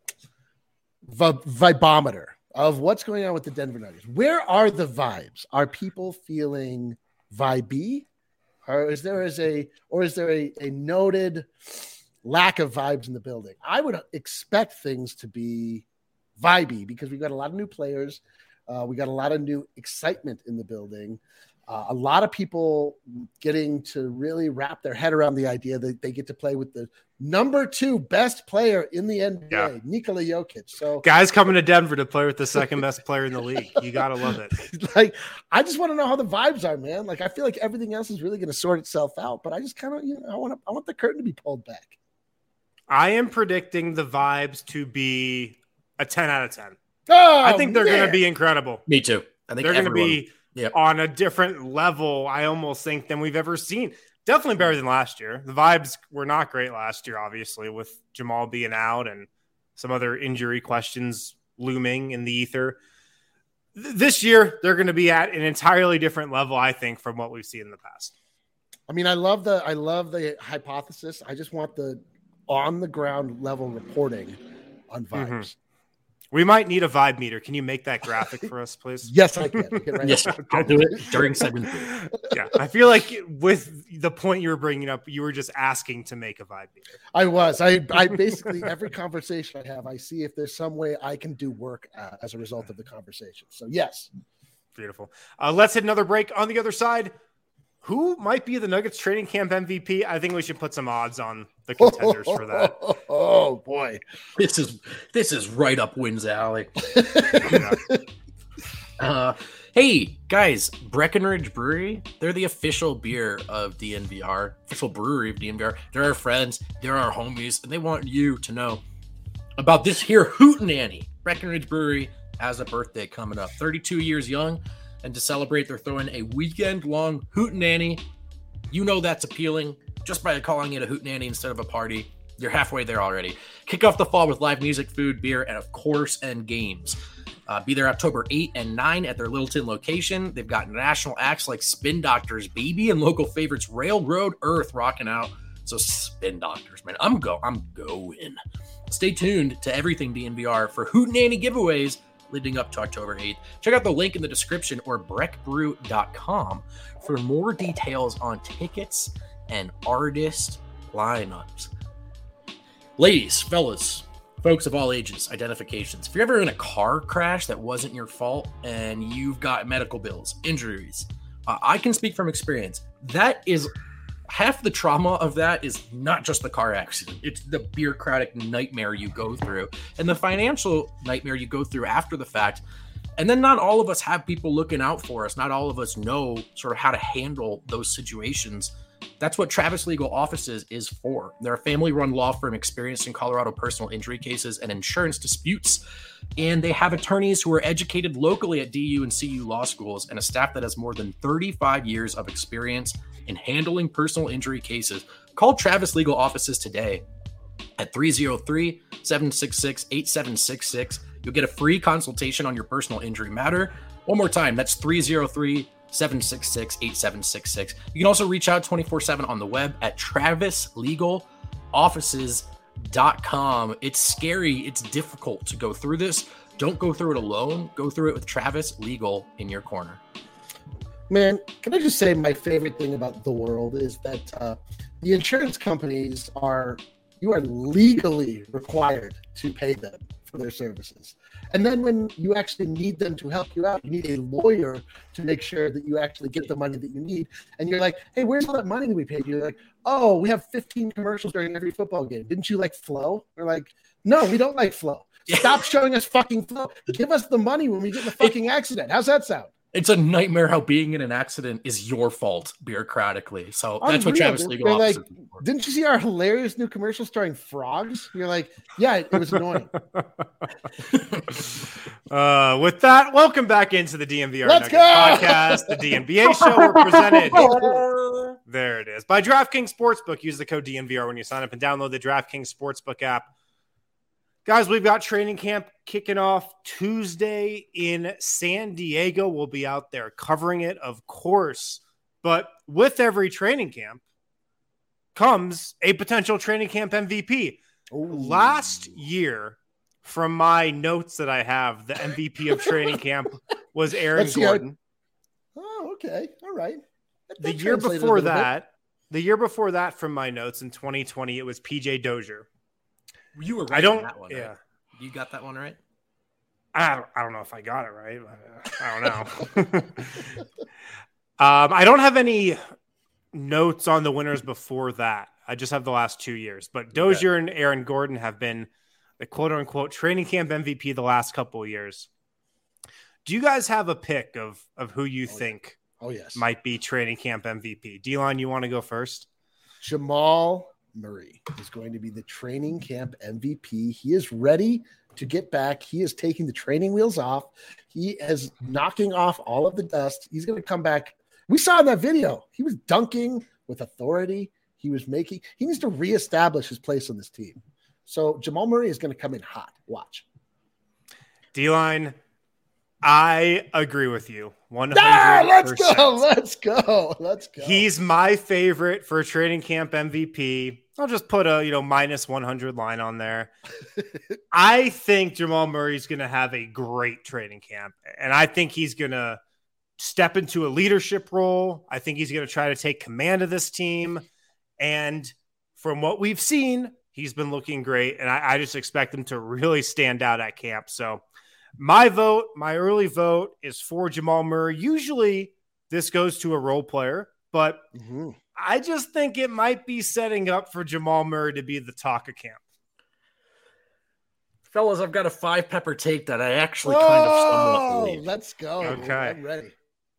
[SPEAKER 2] v- vibometer of what's going on with the Denver Nuggets. Where are the vibes? Are people feeling vibey? Or is there is a or is there a, a noted lack of vibes in the building? I would expect things to be vibey because we've got a lot of new players. Uh, we got a lot of new excitement in the building. Uh, a lot of people getting to really wrap their head around the idea that they get to play with the number two best player in the N B A, yeah. Nikola Jokic. So
[SPEAKER 1] guys coming to Denver to play with the second best player in the league. You got to love it.
[SPEAKER 2] Like, I just want to know how the vibes are, man. Like, I feel like everything else is really going to sort itself out, but I just kind of, you know, I want to, I want the curtain to be pulled back.
[SPEAKER 1] I am predicting the vibes to be a ten out of ten.
[SPEAKER 2] Oh,
[SPEAKER 1] I think they're going to be incredible.
[SPEAKER 3] Me too. I think
[SPEAKER 1] they're going to be
[SPEAKER 3] yep.
[SPEAKER 1] on a different level, I almost think, than we've ever seen. Definitely better than last year. The vibes were not great last year, obviously, with Jamal being out and some other injury questions looming in the ether. Th- this year, they're going to be at an entirely different level, I think, from what we've seen in the past.
[SPEAKER 2] I mean, I love the I love the hypothesis. I just want the on-the-ground level reporting on vibes. Mm-hmm.
[SPEAKER 1] We might need a vibe meter. Can you make that graphic for us, please?
[SPEAKER 2] Yes, I can. Right
[SPEAKER 3] yes, I'll do it during segment three.
[SPEAKER 1] Yeah, I feel like with the point you were bringing up, you were just asking to make a vibe meter.
[SPEAKER 2] I was. I, I basically, every conversation I have, I see if there's some way I can do work uh, as a result of the conversation. So, yes.
[SPEAKER 1] Beautiful. Uh, let's hit another break. On the other side, who might be the Nuggets training camp M V P? I think we should put some odds on the contenders for that.
[SPEAKER 2] Oh boy,
[SPEAKER 3] this is this is right up Wynn's alley.
[SPEAKER 1] Yeah.
[SPEAKER 3] uh, hey guys, Breckenridge Brewery, they're the official beer of D N V R, official brewery of D N V R. They're our friends, they're our homies, and they want you to know about this here hootenanny. Breckenridge Brewery has a birthday coming up, thirty-two years young. And to celebrate, they're throwing a weekend-long hootenanny. You know that's appealing just by calling it a hootenanny instead of a party. You're halfway there already. Kick off the fall with live music, food, beer, and of course, and games. Uh, be there October eighth and ninth at their Littleton location. They've got national acts like Spin Doctors, Baby, and local favorites Railroad Earth rocking out. So Spin Doctors, man, I'm go, I'm going. Stay tuned to everything D N V R for hootenanny giveaways leading up to October eighth. Check out the link in the description or breck brew dot com for more details on tickets and artist lineups. Ladies, fellas, folks of all ages, identifications. If you're ever in a car crash that wasn't your fault and you've got medical bills, injuries, uh, I can speak from experience. That is half the trauma of that is not just the car accident. It's the bureaucratic nightmare you go through and the financial nightmare you go through after the fact And then not all of us have people looking out for us. Not all of us know sort of how to handle those situations. That's what Travis Legal Offices is for. They're a family-run law firm experienced in Colorado personal injury cases and insurance disputes. And they have attorneys who are educated locally at D U and C U law schools and a staff that has more than thirty-five years of experience in handling personal injury cases. Call Travis Legal Offices today at three oh three, seven six six, eight seven six six. You'll get a free consultation on your personal injury matter. One more time, that's three oh three, seven six six, eight seven six six. You can also reach out twenty-four seven on the web at travis legal offices dot com. It's scary. It's difficult to go through this. Don't go through it alone. Go through it with Travis Legal in your corner.
[SPEAKER 2] Man, can I just say my favorite thing about the world is that uh, the insurance companies are, you are legally required to pay them for their services. And then when you actually need them to help you out, you need a lawyer to make sure that you actually get the money that you need. And you're like, hey, where's all that money that we paid you? You're like, oh, we have fifteen commercials during every football game. Didn't you like Flow? We're like, no, we don't like Flow. Stop showing us fucking Flow. Give us the money when we get in a fucking accident. How's that sound?
[SPEAKER 3] It's a nightmare how being in an accident is your fault bureaucratically. So that's
[SPEAKER 2] Unreal.
[SPEAKER 3] what Travis Legal
[SPEAKER 2] They're
[SPEAKER 3] Offices
[SPEAKER 2] like,
[SPEAKER 3] is for.
[SPEAKER 2] didn't you see our hilarious new commercial starring frogs? You're like, yeah, it, it was annoying.
[SPEAKER 1] Uh, with that, welcome back into the D N V R
[SPEAKER 2] Let's
[SPEAKER 1] Nuggets
[SPEAKER 2] go!
[SPEAKER 1] podcast, the D N B A show. We're presented. There it is. By DraftKings Sportsbook. Use the code D N V R when you sign up and download the DraftKings Sportsbook app. Guys, we've got training camp kicking off Tuesday in San Diego. We'll be out there covering it, of course. But with every training camp comes a potential training camp M V P.
[SPEAKER 2] Ooh.
[SPEAKER 1] Last year, from my notes that I have, the M V P of training camp was Aaron
[SPEAKER 2] Let's see how-
[SPEAKER 1] Gordon.
[SPEAKER 2] Oh, okay. All right. That-
[SPEAKER 1] The
[SPEAKER 2] that
[SPEAKER 1] year
[SPEAKER 2] translated a
[SPEAKER 1] before
[SPEAKER 2] little bit.
[SPEAKER 1] that, the year before that from my notes in twenty twenty, it was P J Dozier.
[SPEAKER 3] You were right
[SPEAKER 1] I don't,
[SPEAKER 3] on that one, right?
[SPEAKER 1] yeah.
[SPEAKER 3] You got that one right?
[SPEAKER 1] I don't, I don't know if I got it right. I don't know. um, I don't have any notes on the winners before that. I just have the last two years. But Dozier okay. and Aaron Gordon have been the quote-unquote training camp M V P the last couple of years. Do you guys have a pick of, of who you
[SPEAKER 2] oh,
[SPEAKER 1] think
[SPEAKER 2] yeah. oh, yes.
[SPEAKER 1] might be training camp M V P? D-Line, you want to go first?
[SPEAKER 2] Jamal Murray is going to be the training camp M V P. He is ready to get back. He is taking the training wheels off. He is knocking off all of the dust. He's going to come back. We saw in that video, he was dunking with authority. He was making, he needs to reestablish his place on this team. So Jamal Murray is going to come in hot. Watch.
[SPEAKER 1] D-Line, I agree with you. one hundred percent.
[SPEAKER 2] Ah, let's go. Let's go. Let's go.
[SPEAKER 1] He's my favorite for training camp M V P. I'll just put a, you know, minus one hundred line on there. I think Jamal Murray's going to have a great training camp, and I think he's going to step into a leadership role. I think he's going to try to take command of this team. And from what we've seen, he's been looking great, and I, I just expect him to really stand out at camp. So my vote, my early vote is for Jamal Murray. Usually this goes to a role player, but mm-hmm. I just think it might be setting up for Jamal Murray to be the talk of camp.
[SPEAKER 3] Fellas, I've got a five pepper take that I actually
[SPEAKER 2] oh,
[SPEAKER 3] kind of somewhat believe.
[SPEAKER 2] Let's go.
[SPEAKER 1] Okay.
[SPEAKER 2] I'm ready.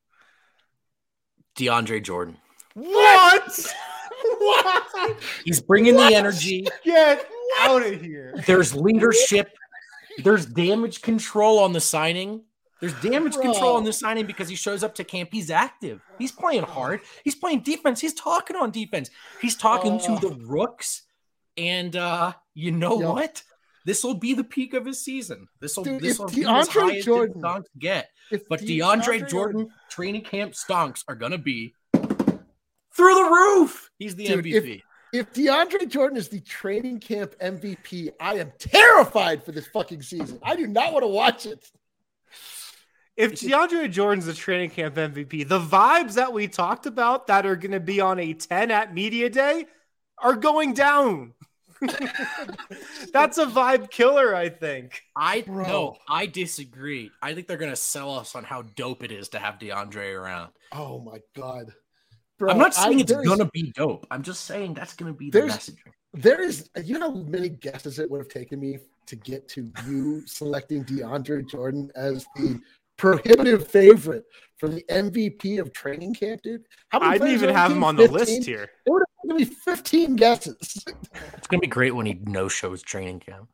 [SPEAKER 3] DeAndre Jordan.
[SPEAKER 1] What?
[SPEAKER 2] What?
[SPEAKER 3] He's bringing
[SPEAKER 2] what?
[SPEAKER 3] the energy.
[SPEAKER 1] Get out of here.
[SPEAKER 3] There's leadership. There's damage control on the signing. There's damage
[SPEAKER 2] Bro.
[SPEAKER 3] control on the signing because he shows up to camp. He's active. He's playing hard. He's playing defense. He's talking on defense. He's talking
[SPEAKER 2] oh.
[SPEAKER 3] to the rooks. And uh, you know
[SPEAKER 2] Yo.
[SPEAKER 3] what? This will be the peak of his season. This will this will be
[SPEAKER 2] DeAndre
[SPEAKER 3] as high as
[SPEAKER 2] Jordan,
[SPEAKER 3] the stonks get.
[SPEAKER 2] if
[SPEAKER 3] But
[SPEAKER 2] De-
[SPEAKER 3] DeAndre,
[SPEAKER 2] DeAndre
[SPEAKER 3] Jordan,
[SPEAKER 2] Jordan
[SPEAKER 3] training camp stonks are gonna be through the roof. He's the
[SPEAKER 2] Dude,
[SPEAKER 3] M V P.
[SPEAKER 2] If, if DeAndre Jordan is the training camp M V P, I am terrified for this fucking season. I do not want to watch it.
[SPEAKER 1] If DeAndre Jordan's the training camp M V P, the vibes that we talked about that are going to be on a ten at media day are going down. That's a vibe killer, I think.
[SPEAKER 3] I
[SPEAKER 2] Bro.
[SPEAKER 3] no, I disagree. I think they're gonna sell us on how dope it is to have DeAndre around.
[SPEAKER 2] Oh my god, bro!
[SPEAKER 3] I'm not saying
[SPEAKER 2] I,
[SPEAKER 3] it's
[SPEAKER 2] there's-
[SPEAKER 3] gonna be dope. I'm just saying that's gonna be the
[SPEAKER 2] There's-
[SPEAKER 3] messaging.
[SPEAKER 2] There is, you know, how many guesses it would have taken me to get to you selecting DeAndre Jordan as the prohibitive favorite for the M V P of training camp, dude. How many
[SPEAKER 1] I didn't
[SPEAKER 2] players
[SPEAKER 1] even
[SPEAKER 2] are
[SPEAKER 1] have
[SPEAKER 2] the
[SPEAKER 1] him
[SPEAKER 2] team?
[SPEAKER 1] on the
[SPEAKER 2] fifteen?
[SPEAKER 1] list here.
[SPEAKER 2] It would have given me fifteen guesses.
[SPEAKER 3] It's gonna be great when he no shows training camp.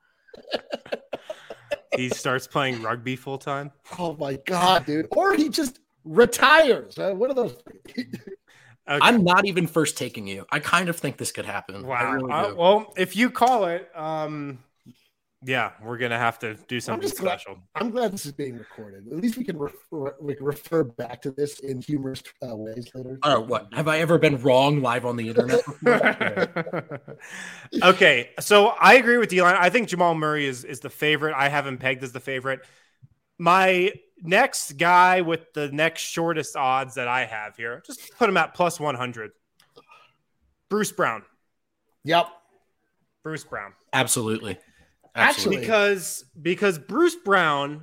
[SPEAKER 1] He starts playing rugby full time.
[SPEAKER 2] Oh my god, dude! Or he just retires. Uh, what are those?
[SPEAKER 1] Okay.
[SPEAKER 3] I'm not even first taking you. I kind of think this could happen. I
[SPEAKER 1] Wow.
[SPEAKER 3] really
[SPEAKER 1] Uh,
[SPEAKER 3] do.
[SPEAKER 1] well, if you call it, um, yeah, we're gonna have to do something
[SPEAKER 2] just glad-
[SPEAKER 1] special.
[SPEAKER 2] I'm glad this is being recorded. At least we can refer, we can refer back to this in humorous uh, ways later.
[SPEAKER 3] Oh, what? Have I ever been wrong live on the internet before?
[SPEAKER 1] Okay, so I agree with D-Line. I think Jamal Murray is is the favorite. I have him pegged as the favorite. My next guy with the next shortest odds that I have here, just put him at plus one hundred. Bruce Brown.
[SPEAKER 2] Yep.
[SPEAKER 1] Bruce Brown.
[SPEAKER 3] Absolutely.
[SPEAKER 2] Actually-
[SPEAKER 1] Because because Bruce Brown,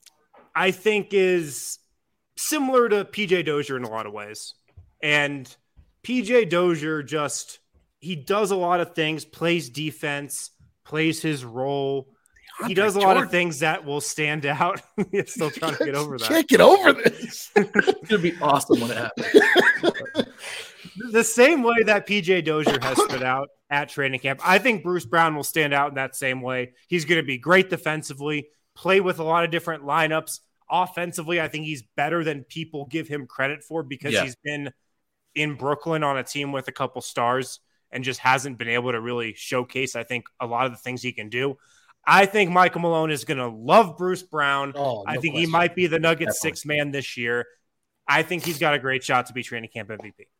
[SPEAKER 1] I think, is similar to P J Dozier in a lot of ways. And P J Dozier just, he does a lot of things, plays defense, plays his role. He does a lot of things that will stand out. He's still trying to get over that.
[SPEAKER 2] Can't get over this.
[SPEAKER 3] It's gonna be awesome when it happens.
[SPEAKER 1] The same way that P J Dozier has stood out at training camp, I think Bruce Brown will stand out in that same way. He's going to be great defensively, play with a lot of different lineups. Offensively, I think he's better than people give him credit for because
[SPEAKER 3] Yeah.
[SPEAKER 1] he's been in Brooklyn on a team with a couple stars and just hasn't been able to really showcase, I think, a lot of the things he can do. I think Michael Malone is going to love Bruce Brown.
[SPEAKER 2] Oh,
[SPEAKER 1] I
[SPEAKER 2] no
[SPEAKER 1] think
[SPEAKER 2] question.
[SPEAKER 1] he might be the Nuggets
[SPEAKER 3] Definitely.
[SPEAKER 1] sixth man this year. I think he's got a great shot to be training camp M V P.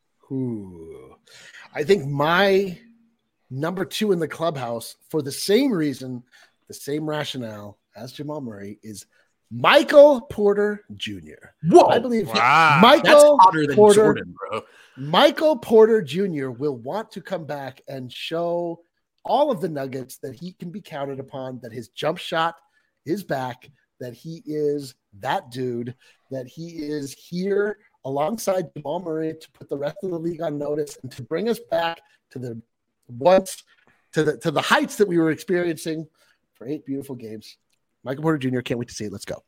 [SPEAKER 2] Ooh. I think my number two in the clubhouse, for the same reason, the same rationale as Jamal Murray, is Michael Porter Junior
[SPEAKER 3] Whoa,
[SPEAKER 2] I believe
[SPEAKER 1] Wow.
[SPEAKER 3] that's
[SPEAKER 2] Michael
[SPEAKER 3] hotter than
[SPEAKER 2] Porter,
[SPEAKER 3] Jordan, bro.
[SPEAKER 2] Michael Porter Junior will want to come back and show all of the Nuggets that he can be counted upon, that his jump shot is back, that he is that dude, that he is here alongside Jamal Murray to put the rest of the league on notice and to bring us back to the once to the to the heights that we were experiencing for eight beautiful games. Michael Porter Junior, can't wait to see it. Let's go.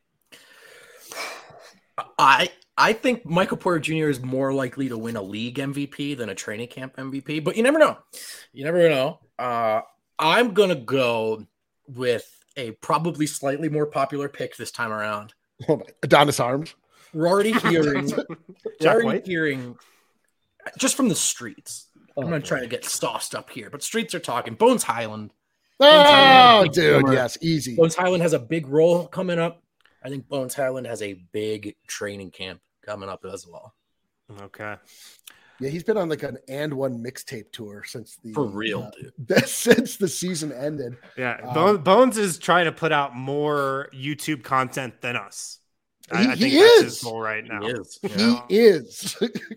[SPEAKER 3] I I think Michael Porter Junior is more likely to win a league M V P than a training camp M V P, but you never know. You never know. Uh, I'm gonna go with a probably slightly more popular pick this time around.
[SPEAKER 2] Oh my, Adonis Arms.
[SPEAKER 3] We're already hearing, we're
[SPEAKER 1] Jack
[SPEAKER 3] already
[SPEAKER 1] White?
[SPEAKER 3] hearing just from the streets.
[SPEAKER 2] Oh,
[SPEAKER 3] I'm gonna
[SPEAKER 2] boy.
[SPEAKER 3] try to get sauced up here, but streets are talking. Bones Highland.
[SPEAKER 2] Oh,
[SPEAKER 3] Big
[SPEAKER 2] dude,
[SPEAKER 3] summer.
[SPEAKER 2] yes, easy.
[SPEAKER 3] Bones Highland has a big role coming up. I think Bones Highland has a big training camp coming up as well.
[SPEAKER 1] Okay.
[SPEAKER 2] Yeah, he's been on like an and one mixtape tour since the
[SPEAKER 3] For real,
[SPEAKER 2] uh,
[SPEAKER 3] dude.
[SPEAKER 2] since the season ended.
[SPEAKER 1] Yeah,
[SPEAKER 2] Um,
[SPEAKER 1] Bones, Bones is trying to put out more YouTube content than us. I,
[SPEAKER 2] He-
[SPEAKER 1] I think
[SPEAKER 2] he
[SPEAKER 1] that's
[SPEAKER 2] is.
[SPEAKER 1] his goal right now.
[SPEAKER 3] He is.
[SPEAKER 1] You
[SPEAKER 2] He
[SPEAKER 1] know?
[SPEAKER 2] is.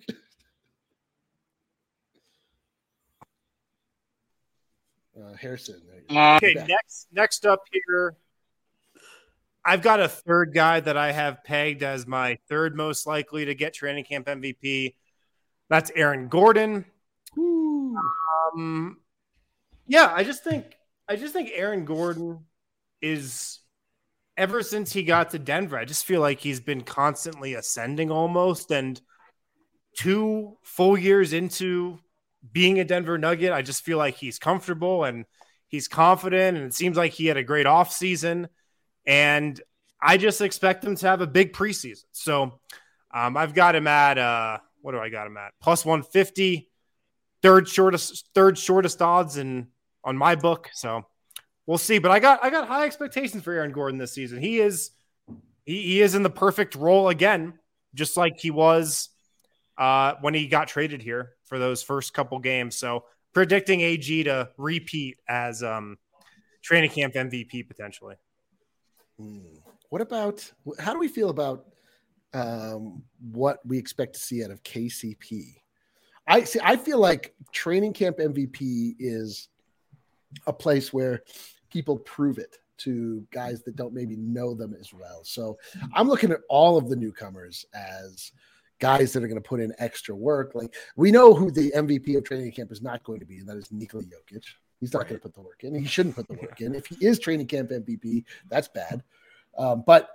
[SPEAKER 2] uh, Harrison. there you go.
[SPEAKER 1] Okay,
[SPEAKER 2] Back.
[SPEAKER 1] next next up here, I've got a third guy that I have pegged as my third most likely to get training camp M V P. That's Aaron Gordon.
[SPEAKER 2] Woo.
[SPEAKER 1] Um, yeah, I just think I just think Aaron Gordon is, ever since he got to Denver, I just feel like he's been constantly ascending almost. And two full years into being a Denver Nugget, I just feel like he's comfortable and he's confident. And it seems like he had a great offseason. And I just expect him to have a big preseason. So um, I've got him at, uh, what do I got him at? Plus one fifty, third shortest, third shortest odds in on my book. So we'll see. But I got I got high expectations for Aaron Gordon this season. He is he, he is in the perfect role again, just like he was uh, when he got traded here for those first couple games. So predicting A G to repeat as um, training camp M V P potentially.
[SPEAKER 2] Hmm. What about how do we feel about um, what we expect to see out of K C P? I see. I feel like training camp M V P is a place where people prove it to guys that don't maybe know them as well. So I'm looking at all of the newcomers as guys that are going to put in extra work. Like we know who the M V P of training camp is not going to be, and that is Nikola Jokic. He's not going to put the work in. He shouldn't put the work in. If he is training camp M V P, that's bad. Um, but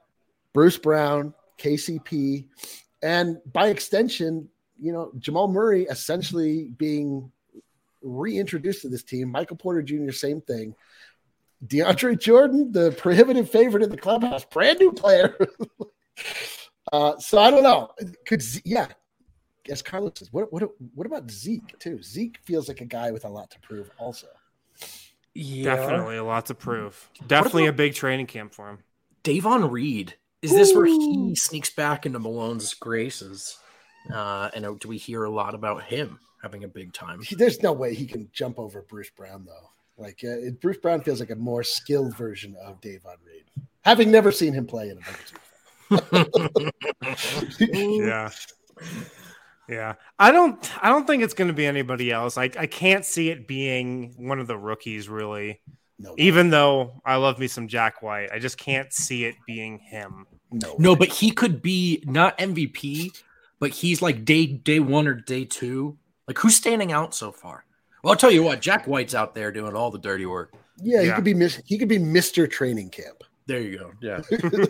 [SPEAKER 2] Bruce Brown, K C P, and by extension, you know, Jamal Murray essentially being reintroduced to this team. Michael Porter Junior, same thing. DeAndre Jordan, the prohibitive favorite in the clubhouse, brand new player. uh, so I don't know. Could yeah, as Carlos says, what what what about Zeke too? Zeke feels like a guy with a lot to prove, also.
[SPEAKER 3] Yeah.
[SPEAKER 1] Definitely a lot to prove. Definitely a big training camp for him.
[SPEAKER 3] Davon Reed. Is this Ooh. where he sneaks back into Malone's graces? Uh, and do we hear a lot about him having a big time?
[SPEAKER 2] There's no way he can jump over Bruce Brown, though. Like uh, it, Bruce Brown feels like a more skilled version of Davon Reed, having never seen him play in a big
[SPEAKER 1] Yeah, yeah. I don't. I don't think it's going to be anybody else. I I can't see it being one of the rookies, really. No, even though I love me some Jack White, I just can't see it being him.
[SPEAKER 3] No, no, but he could be not M V P, but he's like day day one or day two. Like who's standing out so far? Well, I'll tell you what, Jack White's out there doing all the dirty work.
[SPEAKER 2] Yeah, he yeah. could be mis- he could be Mister Training Camp.
[SPEAKER 3] There you go. Yeah.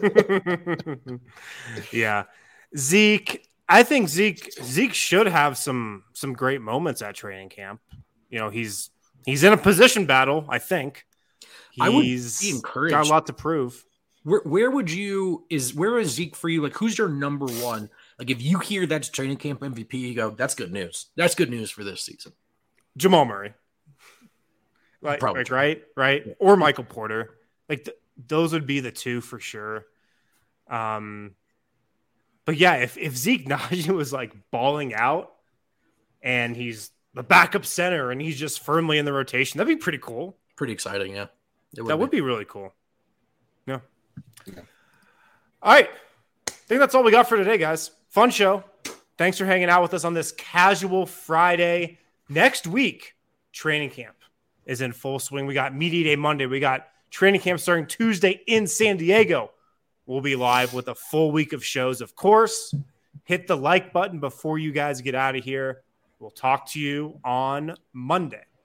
[SPEAKER 1] Yeah. Zeke, I think Zeke Zeke should have some some great moments at training camp. You know, he's he's in a position battle, I think. He's
[SPEAKER 3] I would be encouraged.
[SPEAKER 1] Got a lot to prove.
[SPEAKER 3] Where where would you is where is Zeke for you? Like who's your number one? Like if you hear that's training camp M V P, you go, that's good news. That's good news for this season.
[SPEAKER 1] Jamal Murray. Like, like right, right. Yeah. Or Michael Porter. Like th- those would be the two for sure. Um but yeah, if, if Zeke Nnaji was like balling out and he's the backup center and he's just firmly in the rotation, that'd be pretty cool.
[SPEAKER 3] Pretty exciting, yeah.
[SPEAKER 1] Would that be. would be really cool. Yeah. yeah. All right. I think that's all we got for today, guys. Fun show. Thanks for hanging out with us on this casual Friday. Next week, training camp is in full swing. We got Media Day Monday. We got training camp starting Tuesday in San Diego. We'll be live with a full week of shows, of course. Hit the like button before you guys get out of here. We'll talk to you on Monday.